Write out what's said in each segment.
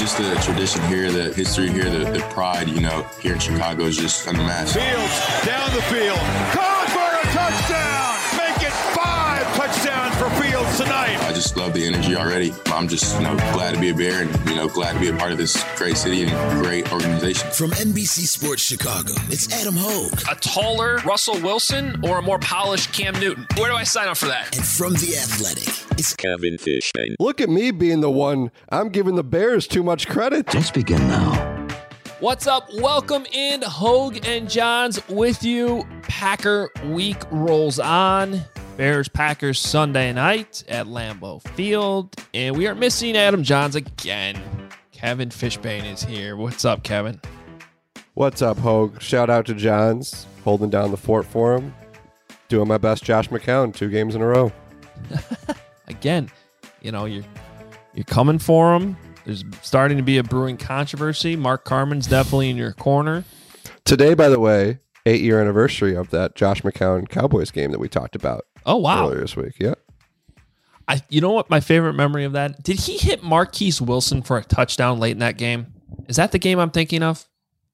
Just the tradition here, the history here, the pride, here in Chicago is just unmatched. Fields down the field. Caught for a touchdown. Make it 5 touchdowns for Fields tonight. I just love the energy already. I'm just, glad to be a Bear and, glad to be a part of this great city and great organization. From NBC Sports Chicago, it's Adam Hogue. A taller Russell Wilson or a more polished Cam Newton? Where do I sign up for that? And from The Athletic, it's Kevin Fishbain. Look at me being the one. I'm giving the Bears too much credit. Let's begin now. What's up? Welcome in. Hogue and Johns with you. Packer week rolls on. Bears-Packers Sunday night at Lambeau Field. And we are missing Adam Johns again. Kevin Fishbain is here. What's up, Kevin? What's up, Hogue? Shout out to Johns, holding down the fort for him. Doing my best Josh McCown 2 games in a row. Again, you're coming for him. There's starting to be a brewing controversy. Mark Carman's definitely in your corner. Today, by the way, 8-year anniversary of that Josh McCown Cowboys game that we talked about. Oh, wow. Earlier this week, yeah. You know what my favorite memory of that? Did he hit Marquise Wilson for a touchdown late in that game? Is that the game I'm thinking of?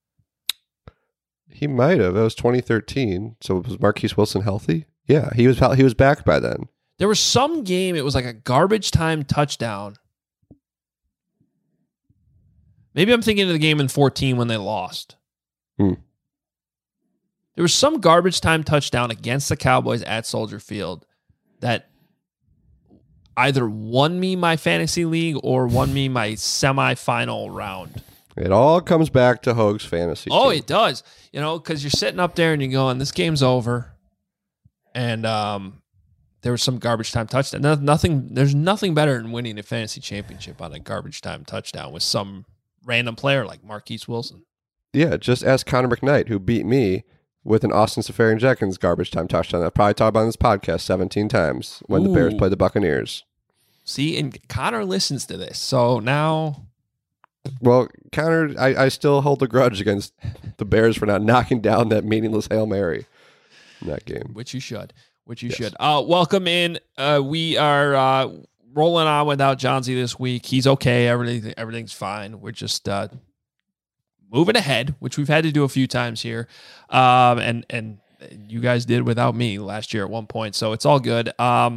He might have. It was 2013. So was Marquise Wilson healthy? Yeah, he was back by then. There was some game, it was like a garbage time touchdown. Maybe I'm thinking of the game in 14 when they lost. There was some garbage time touchdown against the Cowboys at Soldier Field that either won me my fantasy league or won me my semifinal round. It all comes back to Hogue's fantasy team. It does. Because you're sitting up there and you're going, this game's over. And there was some garbage time touchdown. There's nothing better than winning a fantasy championship on a garbage time touchdown with some random player like Marquise Wilson. Yeah, just ask Connor McKnight, who beat me with an Austin Seferian-Jenkins garbage time touchdown. I've probably talked about on this podcast 17 times when the Bears played the Buccaneers. See, and Connor listens to this, so now... Well, Connor, I still hold a grudge against the Bears for not knocking down that meaningless Hail Mary in that game. Which you should. Welcome in. We are rolling on without Johnsy this week. He's okay. Everything's fine. We're just moving ahead, which we've had to do a few times here. And you guys did without me last year at one point, so it's all good.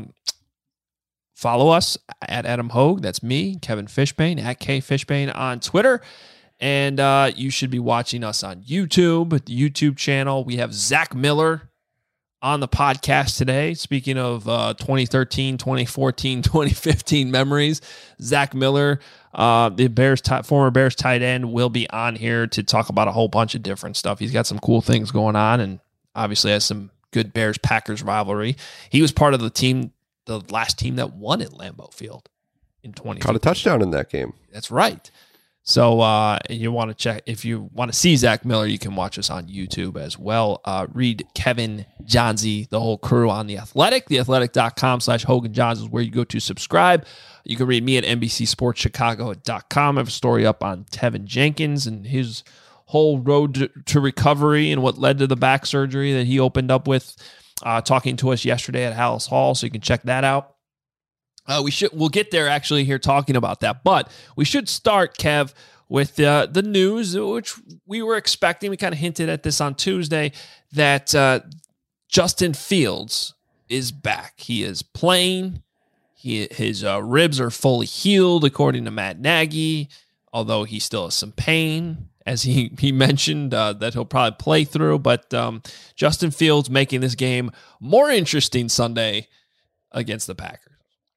Follow us at Adam Hogue. That's me, Kevin Fishbain, at K Fishbain on Twitter. And you should be watching us on YouTube, the YouTube channel. We have Zach Miller on the podcast today. Speaking of 2013, 2014, 2015 memories, Zach Miller, the former Bears tight end, will be on here to talk about a whole bunch of different stuff. He's got some cool things going on and obviously has some good Bears-Packers rivalry. He was part of the last team that won at Lambeau Field in 2015. Caught a touchdown in that game. That's right. So you want to check, if you want to see Zach Miller, you can watch us on YouTube as well. Read Kevin, Johnsy, the whole crew on The Athletic. TheAthletic.com/Hogue and Johns is where you go to subscribe. You can read me at NBCSportsChicago.com. I have a story up on Tevin Jenkins and his whole road to recovery and what led to the back surgery that he opened up with, talking to us yesterday at Hallis Hall. So you can check that out. We'll get there actually here talking about that, but we should start, Kev, with the news, which we were expecting. We kind of hinted at this on Tuesday that Justin Fields is back. He is playing. His ribs are fully healed, according to Matt Nagy, although he still has some pain, as he mentioned, that he'll probably play through. But Justin Fields making this game more interesting Sunday against the Packers.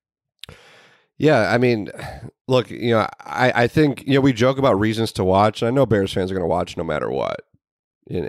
Yeah, I mean, look, I think, we joke about reasons to watch, and I know Bears fans are going to watch no matter what. By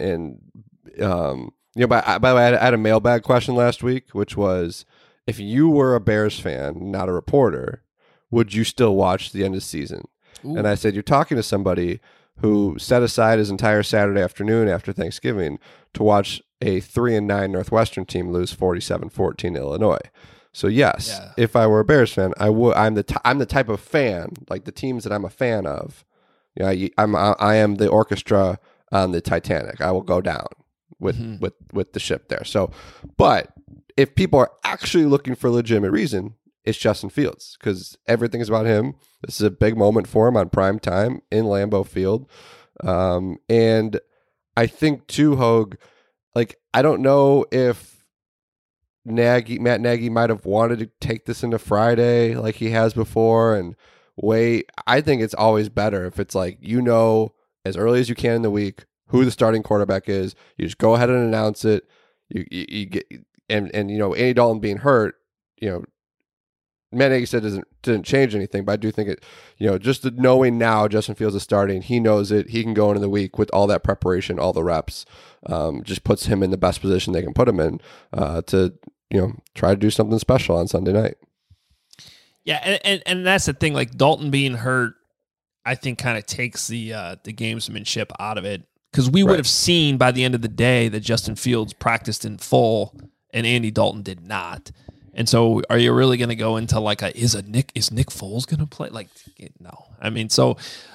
the way, I had a mailbag question last week, which was, if you were a Bears fan, not a reporter, would you still watch the end of the season? Ooh. And I said, you're talking to somebody who set aside his entire Saturday afternoon after Thanksgiving to watch a 3-9 Northwestern team lose 47-14 to Illinois. So yes, If I were a Bears fan, I would. I'm the type of fan, like the teams that I'm a fan of. I am the orchestra on the Titanic. I will go down with the ship there. So, but if people are actually looking for a legitimate reason, it's Justin Fields because everything is about him. This is a big moment for him on prime time in Lambeau Field. And I think too, Hogue, like, I don't know if Matt Nagy might have wanted to take this into Friday like he has before and wait. I think it's always better if it's like, as early as you can in the week who the starting quarterback is. You just go ahead and announce it. You get and Andy Dalton being hurt, Matt Nagy said didn't change anything, but I do think it, just knowing now Justin Fields is starting, he knows it. He can go into the week with all that preparation, all the reps, just puts him in the best position they can put him in to try to do something special on Sunday night. Yeah, and that's the thing. Like Dalton being hurt, I think kind of takes the gamesmanship out of it because we would have seen by the end of the day that Justin Fields practiced in full and Andy Dalton did not. And so are you really going to go into like is Nick Foles going to play? Like, no. I mean, so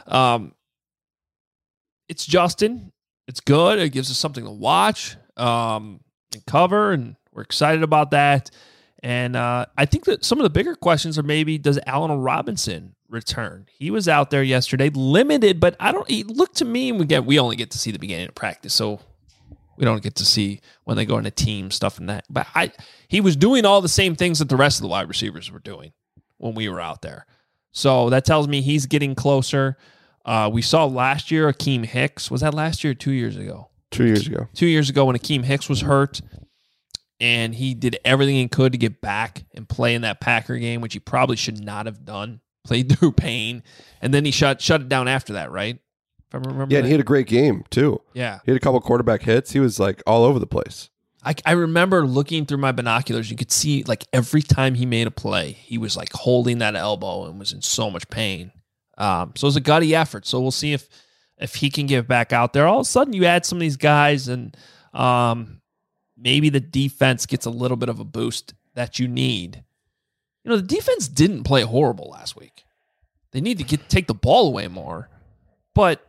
it's Justin. It's good. It gives us something to watch and cover, and we're excited about that. And I think that some of the bigger questions are maybe, does Allen Robinson return? He was out there yesterday, limited, but he looked to me, we only get to see the beginning of practice, so we don't get to see when they go into team stuff and that. But he was doing all the same things that the rest of the wide receivers were doing when we were out there. So that tells me he's getting closer. We saw last year Akeem Hicks. Was that last year or 2 years ago? 2 years ago. 2 years ago when Akeem Hicks was hurt, and he did everything he could to get back and play in that Packer game, which he probably should not have done. Played through pain, and then he shut it down after that, right? If I remember. Yeah, and he had a great game too. Yeah, he had a couple quarterback hits. He was like all over the place. I remember looking through my binoculars. You could see like every time he made a play, he was like holding that elbow and was in so much pain. So it was a gutty effort. So we'll see if he can get back out there. All of a sudden, you add some of these guys, and maybe the defense gets a little bit of a boost that you need. The defense didn't play horrible last week. They need to take the ball away more, but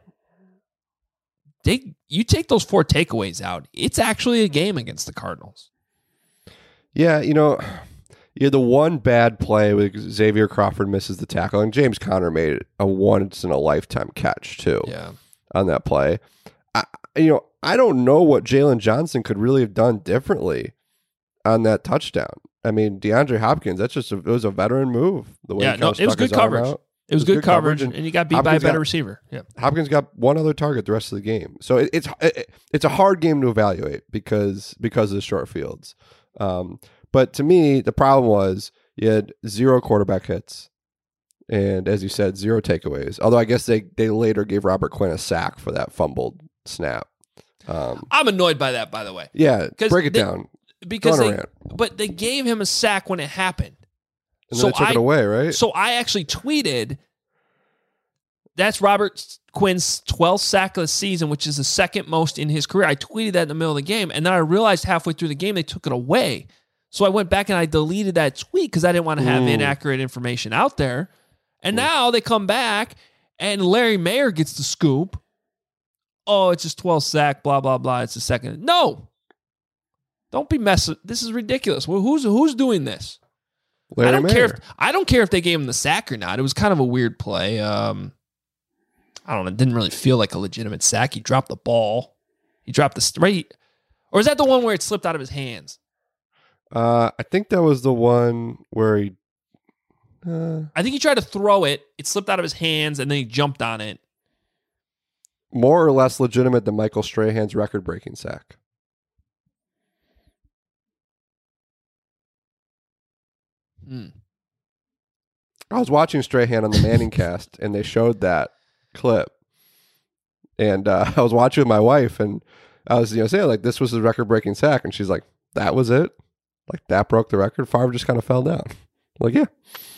you take those 4 takeaways out, it's actually a game against the Cardinals. Yeah, you had the one bad play with Xavier Crawford misses the tackle, and James Conner made a once-in-a-lifetime catch, too, on that play. I don't know what Jalen Johnson could really have done differently on that touchdown. I mean, DeAndre Hopkins, it was a veteran move. The way it was good coverage. It was good coverage, and you got beat by a better receiver. Yeah, Hopkins got one other target the rest of the game. So it's a hard game to evaluate because of the short fields. But to me, the problem was you had 0 quarterback hits, and as you said, 0 takeaways. Although I guess they later gave Robert Quinn a sack for that fumbled snap. I'm annoyed by that, by the way. Yeah, break it down. Because they gave him a sack when it happened. And then they took it away, right? So I actually tweeted, that's Robert Quinn's 12th sack of the season, which is the second most in his career. I tweeted that in the middle of the game, and then I realized halfway through the game they took it away. So I went back and I deleted that tweet because I didn't want to have inaccurate information out there. And now they come back, and Larry Mayer gets the scoop. Oh, it's his 12th sack, blah, blah, blah. It's the second. No. Don't be messing. This is ridiculous. Well, who's doing this? I don't care if they gave him the sack or not. It was kind of a weird play. I don't know. It didn't really feel like a legitimate sack. He dropped the ball. He dropped the straight. Or is that the one where it slipped out of his hands? I think that was the one where he. I think he tried to throw it. It slipped out of his hands, and then he jumped on it. More or less legitimate than Michael Strahan's record-breaking sack. I was watching Strahan on the Manning cast, and they showed that clip. And I was watching with my wife, and I was saying, like, this was the record-breaking sack. And she's like, that was it? Like, that broke the record? Favre just kind of fell down. I'm like, yeah.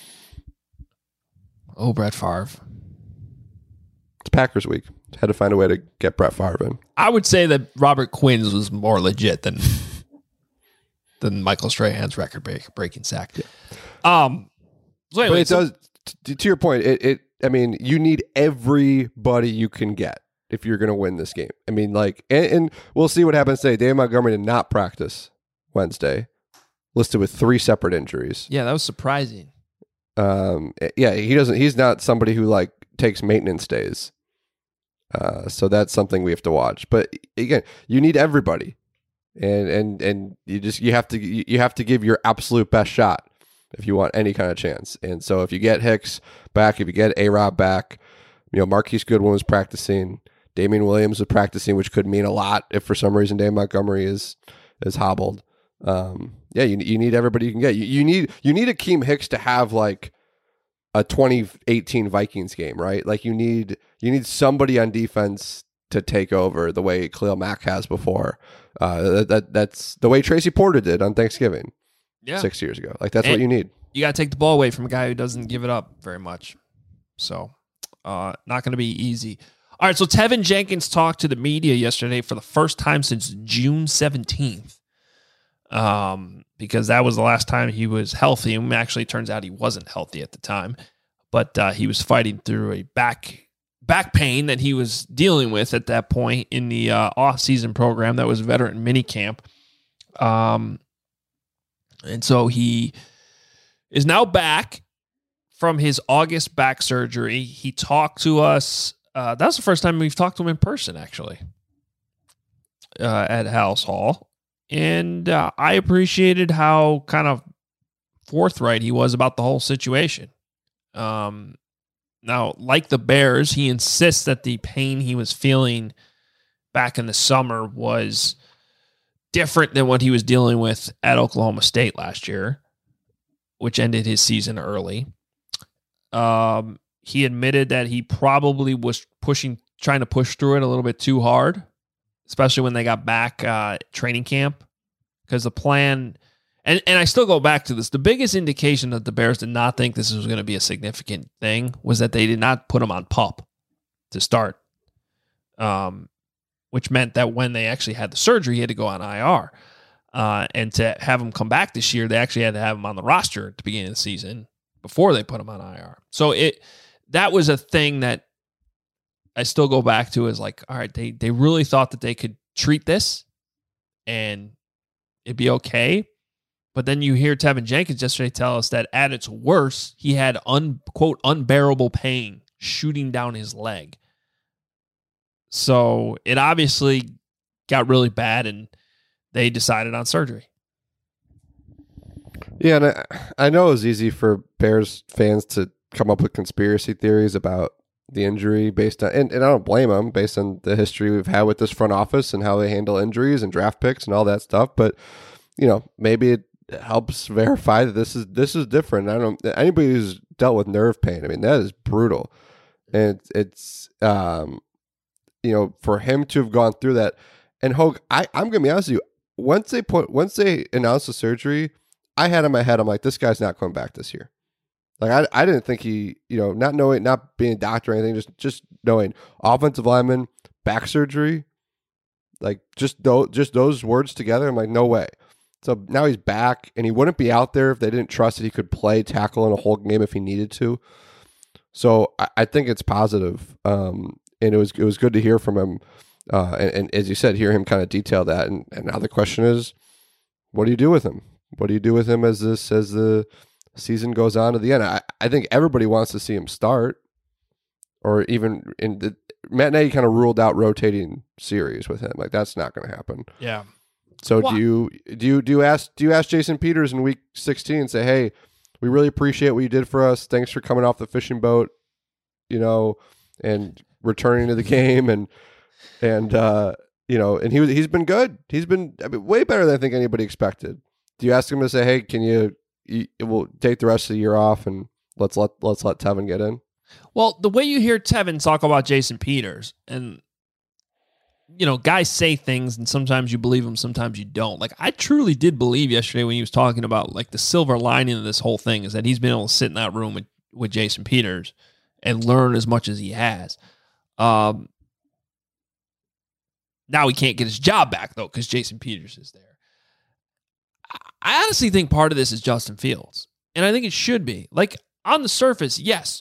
Oh, Brett Favre. It's Packers week. Had to find a way to get Brett Favre in. I would say that Robert Quinn's was more legit than Michael Strahan's record-breaking sack. Yeah. So anyway, but it does. To your point, I mean, you need everybody you can get if you're going to win this game. I mean, like, and we'll see what happens today. David Montgomery did not practice Wednesday, listed with 3 separate injuries. Yeah, that was surprising. He's not somebody who like takes maintenance days. So that's something we have to watch. But again, you need everybody, and you have to give your absolute best shot if you want any kind of chance. And so if you get Hicks back, if you get A-Rob back, Marquise Goodwin was practicing, Damian Williams was practicing, which could mean a lot if for some reason Dave Montgomery is hobbled. You need everybody you can get. You need Akeem Hicks to have like a 2018 Vikings game, right? Like you need somebody on defense to take over the way Khalil Mack has before. That's the way Tracy Porter did on Thanksgiving 6 years ago. Like that's what you need. You got to take the ball away from a guy who doesn't give it up very much. So not going to be easy. All right, so Tevin Jenkins talked to the media yesterday for the first time since June 17th. Because that was the last time he was healthy. And actually, it turns out he wasn't healthy at the time, but he was fighting through a back pain that he was dealing with at that point in the off-season program that was veteran minicamp. And so he is now back from his August back surgery. He talked to us. That was the first time we've talked to him in person, actually, at House Hall. And I appreciated how kind of forthright he was about the whole situation. Now, like the Bears, he insists that the pain he was feeling back in the summer was different than what he was dealing with at Oklahoma State last year, which ended his season early. He admitted that he probably was trying to push through it a little bit too hard, especially when they got back training camp, because the plan, and I still go back to this, the biggest indication that the Bears did not think this was going to be a significant thing was that they did not put him on PUP to start, which meant that when they actually had the surgery, he had to go on IR. And to have him come back this year, they actually had to have him on the roster at the beginning of the season before they put him on IR. So that was a thing that I still go back to as like, all right, they really thought that they could treat this and it'd be okay. But then you hear Tevin Jenkins yesterday tell us that at its worst, he had quote unbearable pain shooting down his leg. So it obviously got really bad and they decided on surgery. Yeah, and I know it was easy for Bears fans to come up with conspiracy theories about the injury based on, and I don't blame them based on the history we've had with this front office and how they handle injuries and draft picks and all that stuff. But maybe it helps verify that this is different. I don't anybody who's dealt with nerve pain. I mean, that is brutal, and it's for him to have gone through that. And Hogue, I'm gonna be honest with you. Once they announced the surgery, I had in my head, I'm like, this guy's not coming back this year. Like I didn't think he, not being a doctor or anything, just knowing offensive lineman, back surgery, like just those words together. I'm like, no way. So now he's back, and he wouldn't be out there if they didn't trust that he could play tackle in a whole game if he needed to. So I think it's positive, and it was good to hear from him. And as you said, hear him kind of detail that. And now the question is, what do you do with him? What do you do with him as the season goes on to the end? I think everybody wants to see him start, or even Matt Nagy kind of ruled out rotating series with him. Like that's not going to happen. Yeah. So do you ask Jason Peters in week 16 and say, hey, we really appreciate what you did for us. Thanks for coming off the fishing boat, and returning to the game and he's been good. He's been way better than I think anybody expected. Do you ask him to say, hey, can we'll take the rest of the year off and let's let Tevin get in? Well, the way you hear Tevin talk about Jason Peters, and guys say things and sometimes you believe them, sometimes you don't. Like I truly did believe yesterday when he was talking about like the silver lining of this whole thing is that he's been able to sit in that room with Jason Peters and learn as much as he has. Now he can't get his job back though because Jason Peters is there. I honestly think part of this is Justin Fields, and I think it should be. Like, on the surface, yes.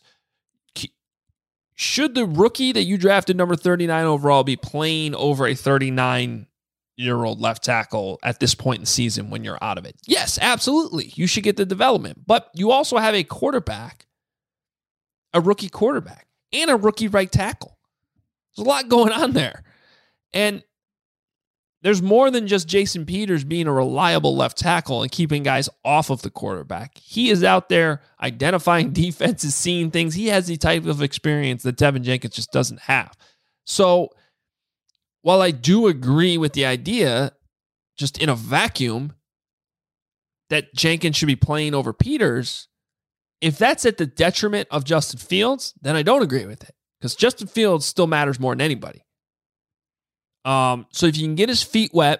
Should the rookie that you drafted number 39 overall be playing over a 39 year-old left tackle at this point in the season when you're out of it. Yes, absolutely. You should get the development. But you also have a quarterback, a rookie quarterback, and a rookie right tackle. There's a lot going on there. And there's more than just Jason Peters being a reliable left tackle and keeping guys off of the quarterback. He is out there identifying defenses, seeing things. He has the type of experience that Tevin Jenkins just doesn't have. So while I do agree with the idea, just in a vacuum, that Jenkins should be playing over Peters, if that's at the detriment of Justin Fields, then I don't agree with it, because Justin Fields still matters more than anybody. So if you can get his feet wet,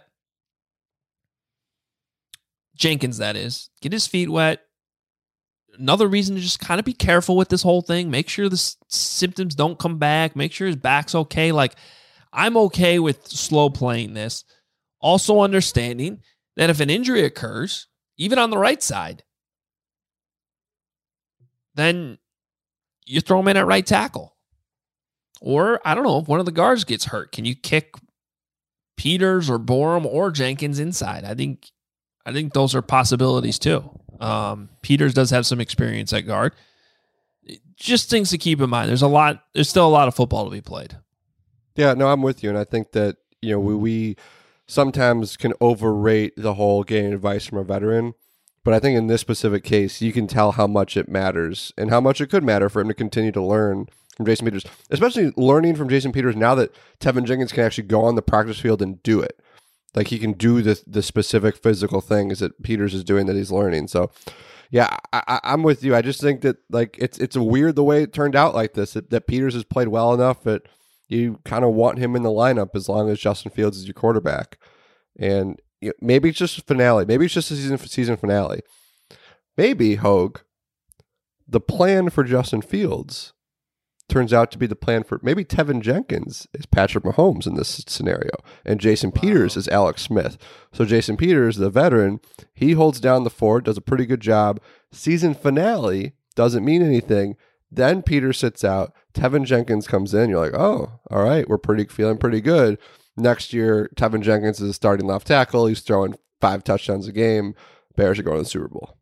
Jenkins, that is, get his feet wet. Another reason to just kind of be careful with this whole thing. Make sure the symptoms don't come back. Make sure his back's okay. Like, I'm okay with slow playing this. Also understanding that if an injury occurs, even on the right side, then you throw him in at right tackle. Or, I don't know, if one of the guards gets hurt, can you kick Peters or Borum or Jenkins inside? I think those are possibilities too. Peters does have some experience at guard. Just things to keep in mind. There's still a lot of football to be played. Yeah, no, I'm with you. And I think that, we sometimes can overrate the whole getting advice from a veteran. But I think in this specific case, you can tell how much it matters and how much it could matter for him to continue to learn from Jason Peters, especially learning from Jason Peters now that Tevin Jenkins can actually go on the practice field and do it. Like, he can do the specific physical things that Peters is doing that he's learning. So, yeah, I'm with you. I just think that, like, it's a weird the way it turned out like this, that Peters has played well enough that you kind of want him in the lineup as long as Justin Fields is your quarterback. And maybe it's just a finale. Maybe it's just a season finale. Maybe, Hogue, the plan for Justin Fields turns out to be the plan for maybe Tevin Jenkins is Patrick Mahomes in this scenario, and Jason Peters is Alex Smith. So Jason Peters, the veteran, he holds down the fort, does a pretty good job. Season finale doesn't mean anything. Then Peters sits out. Tevin Jenkins comes in. You're like, oh, all right, we're feeling pretty good. Next year, Tevin Jenkins is starting left tackle. He's throwing 5 touchdowns a game. Bears are going to the Super Bowl.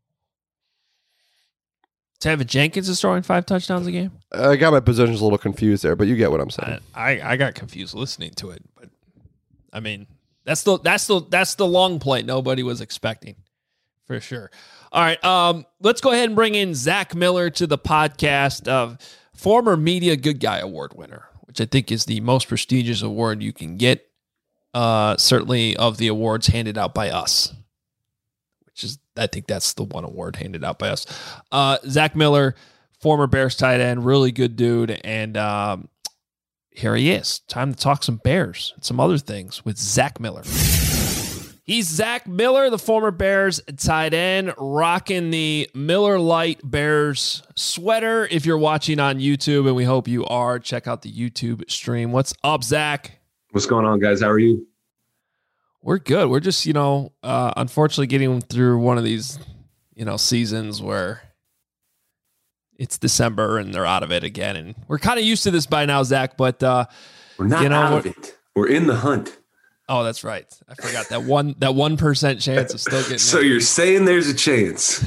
Tevin Jenkins is throwing 5 touchdowns a game? I got my positions a little confused there, but you get what I'm saying. I got confused listening to it, but I mean, that's the long play nobody was expecting, for sure. All right, let's go ahead and bring in Zach Miller to the podcast, former Media Good Guy Award winner, which I think is the most prestigious award you can get, certainly of the awards handed out by us. I think that's the one award handed out by us. Zach Miller, former Bears tight end, really good dude. And here he is. Time to talk some Bears and some other things with Zach Miller. He's Zach Miller, the former Bears tight end, rocking the Miller Lite Bears sweater. If you're watching on YouTube, and we hope you are, check out the YouTube stream. What's up, Zach? What's going on, guys? How are you? We're good. We're just, unfortunately getting through one of these, seasons where it's December and they're out of it again. And we're kind of used to this by now, Zach, but we're not out of it. We're in the hunt. Oh, that's right. I forgot that 1% chance of still getting So you're saying there's a chance.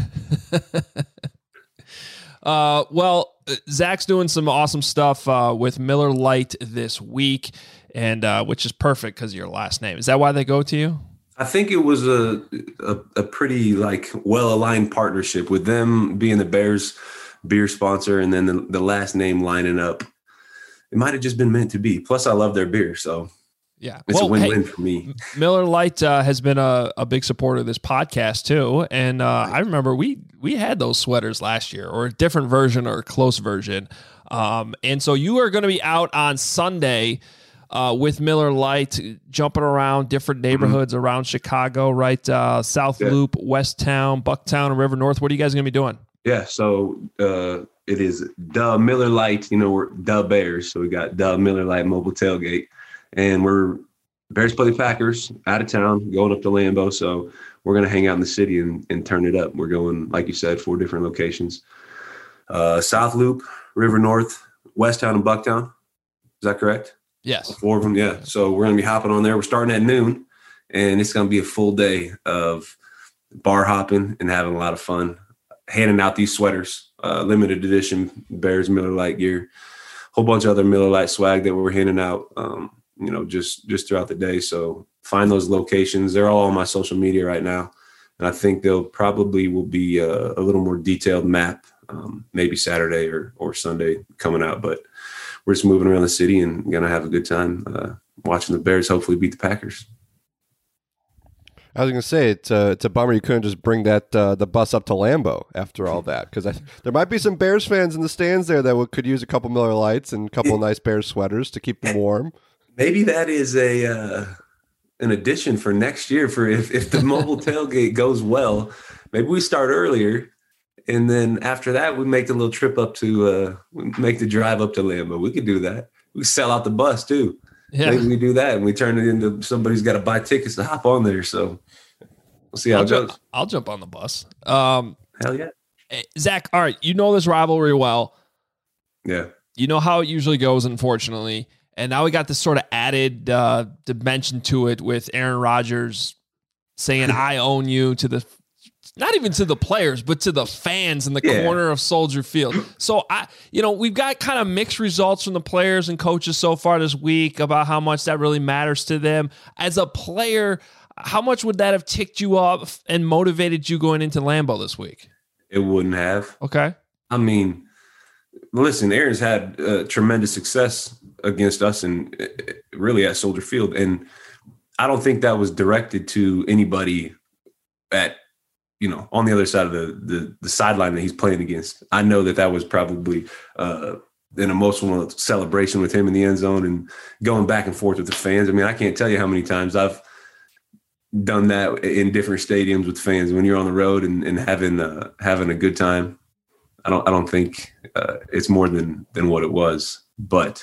Well, Zach's doing some awesome stuff with Miller Lite this week. And which is perfect because of your last name. Is that why they go to you? I think it was a pretty well-aligned partnership with them being the Bears beer sponsor and then the last name lining up. It might have just been meant to be. Plus, I love their beer, so yeah, it's a win-win for me. Miller Lite has been a big supporter of this podcast too, and I remember we had those sweaters last year, or a different version or a close version. And so you are going to be out on Sunday. With Miller Lite, jumping around different neighborhoods around Chicago, right? South Loop, West Town, Bucktown, and River North. What are you guys going to be doing? Yeah, so it is the Miller Lite. We're the Bears, so we got the Miller Lite mobile tailgate. And we're Bears play the Packers out of town, going up to Lambeau. So we're going to hang out in the city and turn it up. We're going, like you said, 4 different locations. South Loop, River North, West Town, and Bucktown. Is that correct? Yes. 4 of them, yeah. So we're going to be hopping on there. We're starting at noon, and it's going to be a full day of bar hopping and having a lot of fun, handing out these sweaters, limited edition Bears Miller Lite gear, whole bunch of other Miller Lite swag that we're handing out, just throughout the day. So find those locations. They're all on my social media right now. And I think they'll probably will be a little more detailed map, maybe Saturday or Sunday coming out. But we're just moving around the city and going to have a good time watching the Bears hopefully beat the Packers. I was going to say, it's a bummer you couldn't just bring that the bus up to Lambeau after all that, because there might be some Bears fans in the stands there that could use a couple Miller Lights and a couple of nice Bears sweaters to keep them warm. Maybe that is an addition for next year for if the mobile tailgate goes well. Maybe we start earlier, and then after that we make the little trip up to make the drive up to Lambeau. We could do that. We could sell out the bus too. Yeah. Maybe we do that and we turn it into somebody's got to buy tickets to hop on there. So we'll see how it goes. I'll jump on the bus. Hell yeah. Zach, all right, you know this rivalry well. Yeah. You know how it usually goes, unfortunately. And now we got this sort of added dimension to it with Aaron Rodgers saying, I own you to the, not even to the players, but to the fans in the corner of Soldier Field. So, we've got kind of mixed results from the players and coaches so far this week about how much that really matters to them. As a player, how much would that have ticked you off and motivated you going into Lambeau this week? It wouldn't have. Okay. I mean, listen, Aaron's had tremendous success against us and really at Soldier Field. And I don't think that was directed to anybody at, on the other side of the sideline that he's playing against. I know that was probably an emotional celebration with him in the end zone and going back and forth with the fans. I mean, I can't tell you how many times I've done that in different stadiums with fans when you're on the road and having a good time. I don't think it's more than what it was, but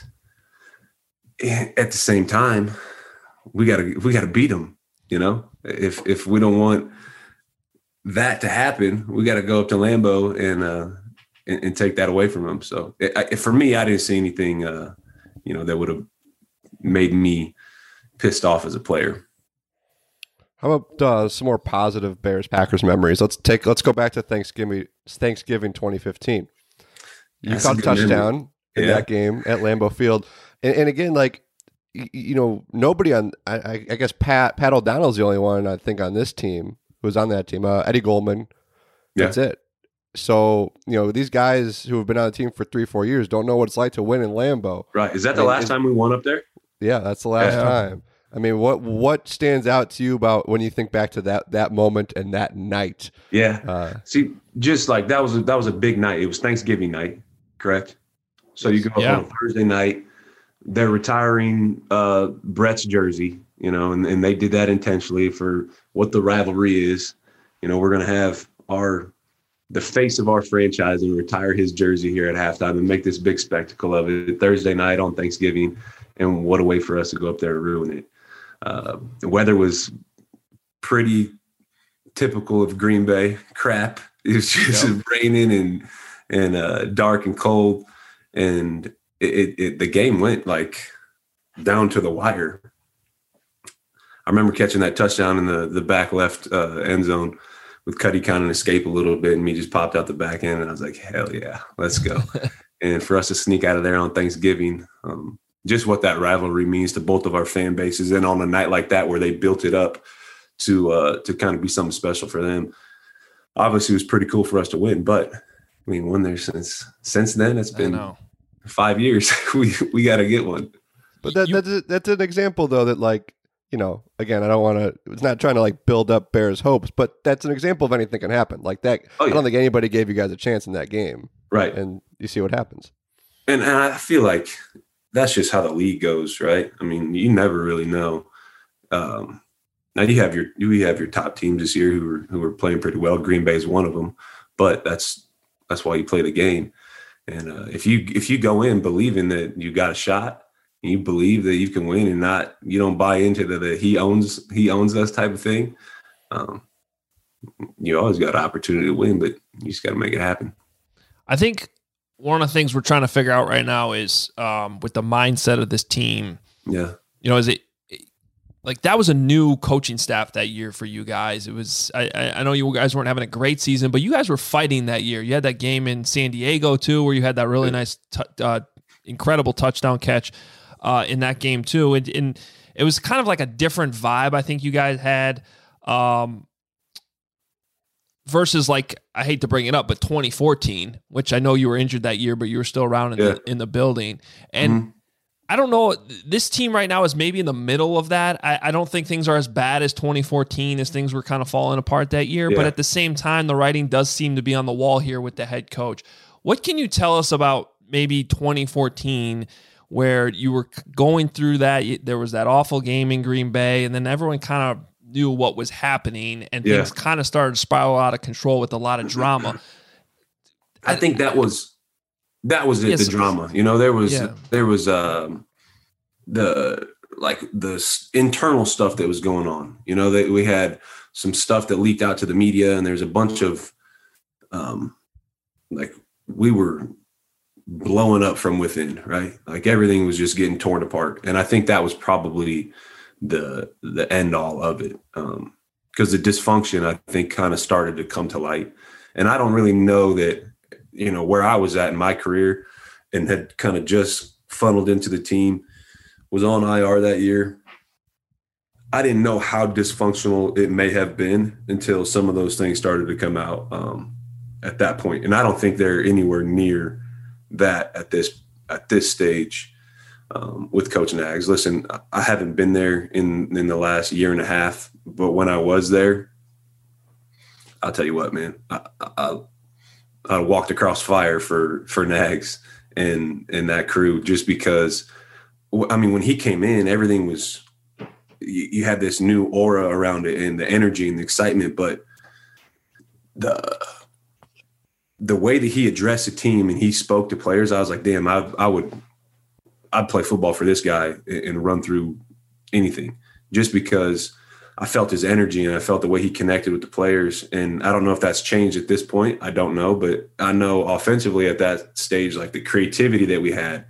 at the same time, we gotta beat them. If we don't want that to happen, we got to go up to Lambeau and take that away from them. So for me, I didn't see anything, that would have made me pissed off as a player. How about some more positive Bears Packers memories? Let's go back to Thanksgiving 2015. You caught a touchdown in that game at Lambeau Field, and again, nobody on. I guess Pat O'Donnell's the only one I think on this team who was on that team. Eddie Goldman. That's it. So, these guys who have been on the team for 3-4 years don't know what it's like to win in Lambeau. Right. Is that the last time we won up there? Yeah, that's the last time. I mean, what stands out to you about when you think back to that moment and that night? Yeah. See, just like that was a big night. It was Thanksgiving night, correct? So you go up on a Thursday night. They're retiring Brett's jersey, and they did that intentionally for what the rivalry is. We're going to have the face of our franchise and retire his jersey here at halftime and make this big spectacle of it Thursday night on Thanksgiving. And what a way for us to go up there and ruin it. The weather was pretty typical of Green Bay crap. It was just raining and dark and cold. And the game went like down to the wire. I remember catching that touchdown in the back left end zone with Cuddy kind of escape a little bit, and me just popped out the back end, and I was like, hell yeah, let's go. And for us to sneak out of there on Thanksgiving, just what that rivalry means to both of our fan bases, and on a night like that where they built it up to kind of be something special for them. Obviously, it was pretty cool for us to win, but I mean, won there since then. It's been 5 years. we got to get one. But that's an example, though, that again, I don't want to. It's not trying to build up Bears hopes, but that's an example of anything can happen like that. I don't think anybody gave you guys a chance in that game, right? And you see what happens. And I feel like that's just how the league goes, right? I mean, you never really know. Now you have your top teams this year who are playing pretty well. Green Bay is one of them, but that's why you play the game. And if you go in believing that you got a shot, and you believe that you can win, and you don't buy into the he owns us type of thing, you always got an opportunity to win, but you just got to make it happen. I think one of the things we're trying to figure out right now is with the mindset of this team. Yeah. Is it like that was a new coaching staff that year for you guys. It was, I know you guys weren't having a great season, but you guys were fighting that year. You had that game in San Diego too, where you had that really nice, incredible touchdown catch in that game too. And it was kind of like a different vibe I think you guys had versus like, I hate to bring it up, but 2014, which I know you were injured that year, but you were still around in the building. And I don't know, this team right now is maybe in the middle of that. I don't think things are as bad as 2014 as things were kind of falling apart that year. But at the same time, the writing does seem to be on the wall here with the head coach. What can you tell us about maybe 2014 where you were going through that? There was that awful game in Green Bay, and then everyone kind of knew what was happening, and things kind of started to spiral out of control with a lot of drama. I think that was it, yes, the drama. You know, there was the internal stuff that was going on. You know, that we had some stuff that leaked out to the media, and there's a bunch of like we were blowing up from within, right? Like everything was just getting torn apart. And I think that was probably the end all of it. Because the dysfunction, I think, kind of started to come to light. And I don't really know that, you know, where I was at in my career and had kind of just funneled into the team, was on IR that year. I didn't know how dysfunctional it may have been until some of those things started to come out at that point. And I don't think they're anywhere near that at this stage with Coach Nags. Listen, I haven't been there in the last year and a half, but when I was there, I'll tell you what, man, I walked across fire for Nags and that crew, just because, I mean, when he came in, everything was, you had this new aura around it and the energy and the excitement, but the way that he addressed the team and he spoke to players, I was like, damn, I'd play football for this guy and run through anything, just because I felt his energy and I felt the way he connected with the players. And I don't know if that's changed at this point. I don't know, but I know offensively at that stage, like the creativity that we had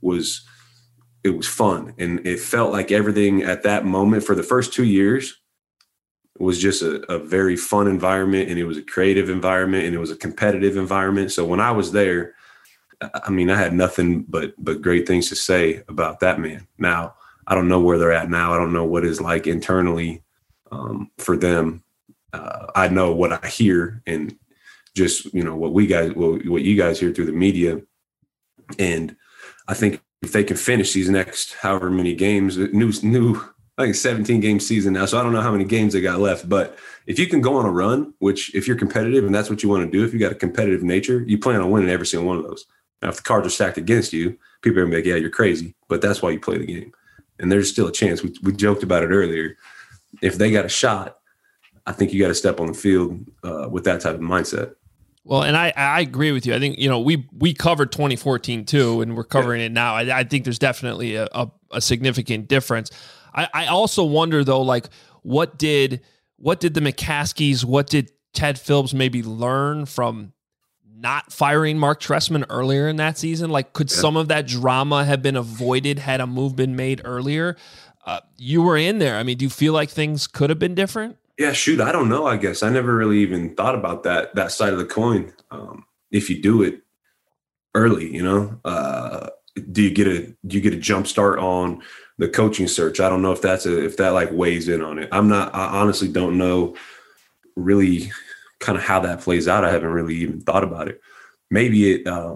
it was fun. And it felt like everything at that moment for the first 2 years was just a very fun environment, and it was a creative environment, and it was a competitive environment. So when I was there, I mean, I had nothing but great things to say about that man. Now, I don't know where they're at now. I don't know what it's like internally for them. I know what I hear and just, you know, what you guys hear through the media. And I think if they can finish these next however many games, new I think 17-game season now, so I don't know how many games they got left. But if you can go on a run, which if you're competitive and that's what you want to do, if you got a competitive nature, you plan on winning every single one of those. Now, if the cards are stacked against you, people are going to be like, yeah, you're crazy. But that's why you play the game. And there's still a chance. We joked about it earlier. If they got a shot, I think you got to step on the field with that type of mindset. Well, and I agree with you. I think, you know, we covered 2014 too, and we're covering it now. I think there's definitely a significant difference. I also wonder though, like what did the McCaskies, what did Ted Phillips maybe learn from not firing Mark Trestman earlier in that season? Like, could some of that drama have been avoided had a move been made earlier? You were in there. I mean, do you feel like things could have been different? Yeah, shoot, I don't know. I guess I never really even thought about that side of the coin. If you do it early, you know, do you get a jump start on the coaching search? I don't know if that like weighs in on it. I honestly don't know really kind of how that plays out. I haven't really even thought about it. Maybe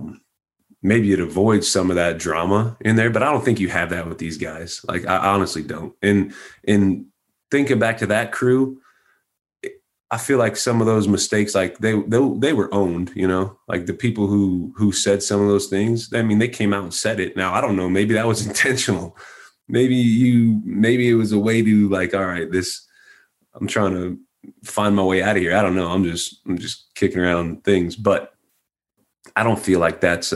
it avoids some of that drama in there, but I don't think you have that with these guys. Like, I honestly don't. And thinking back to that crew, I feel like some of those mistakes, like they were owned, you know, like the people who said some of those things. I mean, they came out and said it. Now, I don't know, maybe that was intentional. Maybe it was a way to like, all right, I'm trying to find my way out of here. I don't know. I'm just kicking around things, but I don't feel like that's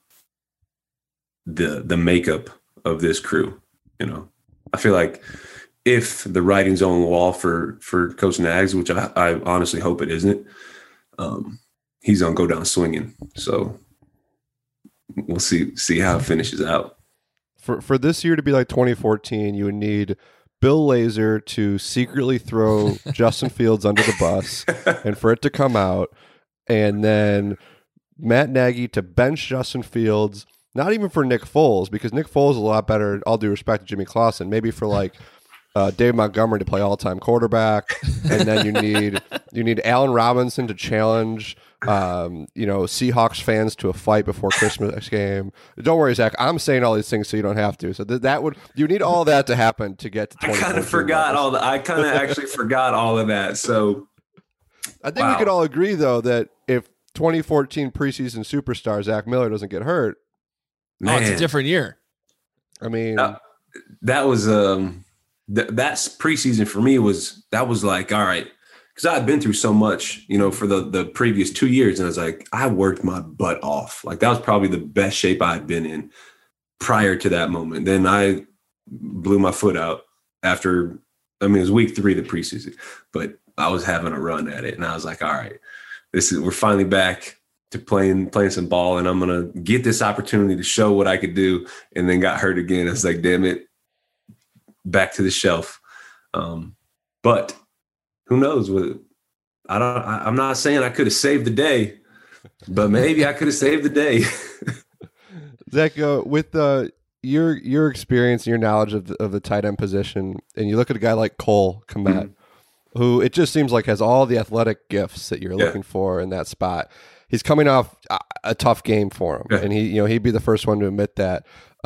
the makeup of this crew. You know, I feel like if the writing's on the wall for Coach Nags, which I honestly hope it isn't, he's gonna go down swinging. So we'll see how it finishes out. For this year to be like 2014, you would need Bill Lazor to secretly throw Justin Fields under the bus and for it to come out, and then Matt Nagy to bench Justin Fields, not even for Nick Foles, because Nick Foles is a lot better, all due respect to Jimmy Clausen, maybe for like Dave Montgomery to play all-time quarterback, and then you need Allen Robinson to challenge Seahawks fans to a fight before Christmas game. Don't worry, Zach. I'm saying all these things so you don't have to. So you need all that to happen to get to 2014. I kind of forgot all that. I kind of actually forgot all of that. So I think we could all agree, though, that if 2014 preseason superstar Zach Miller doesn't get hurt, it's a different year. I mean, that was that's preseason for me was like, all right, because I had been through so much, for the previous 2 years. And I was like, I worked my butt off. Like that was probably the best shape I had been in prior to that moment. Then I blew my foot out after, it was week 3 of the preseason, but I was having a run at it. And I was like, all right, we're finally back to playing some ball, and I'm going to get this opportunity to show what I could do. And then got hurt again. I was like, damn it, back to the shelf. But who knows? I'm not saying I could have saved the day, but maybe I could have saved the day. Zach, with your experience and your knowledge of the tight end position, and you look at a guy like Cole Kmet, who it just seems like has all the athletic gifts that you're looking for in that spot. He's coming off a tough game for him, and he'd be the first one to admit that.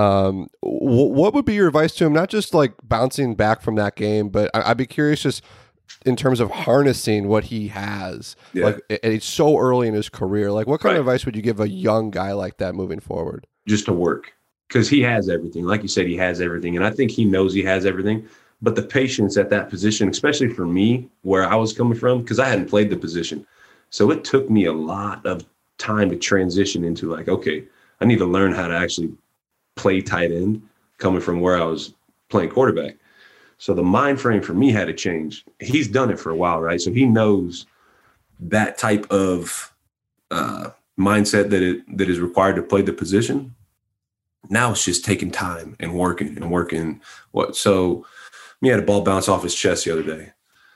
What would be your advice to him? Not just like bouncing back from that game, but I'd be curious just in terms of harnessing what he has. Like, and it's so early in his career. Like, what kind of advice would you give a young guy like that moving forward? Just to work, because he has everything. Like you said, he has everything, and I think he knows he has everything. But the patience at that position, especially for me, where I was coming from, because I hadn't played the position. So it took me a lot of time to transition into like, okay, I need to learn how to actually play tight end coming from where I was playing quarterback. So the mind frame for me had to change. He's done it for a while, right? So he knows that type of mindset that is required to play the position. Now it's just taking time and working. So he had a ball bounce off his chest the other day.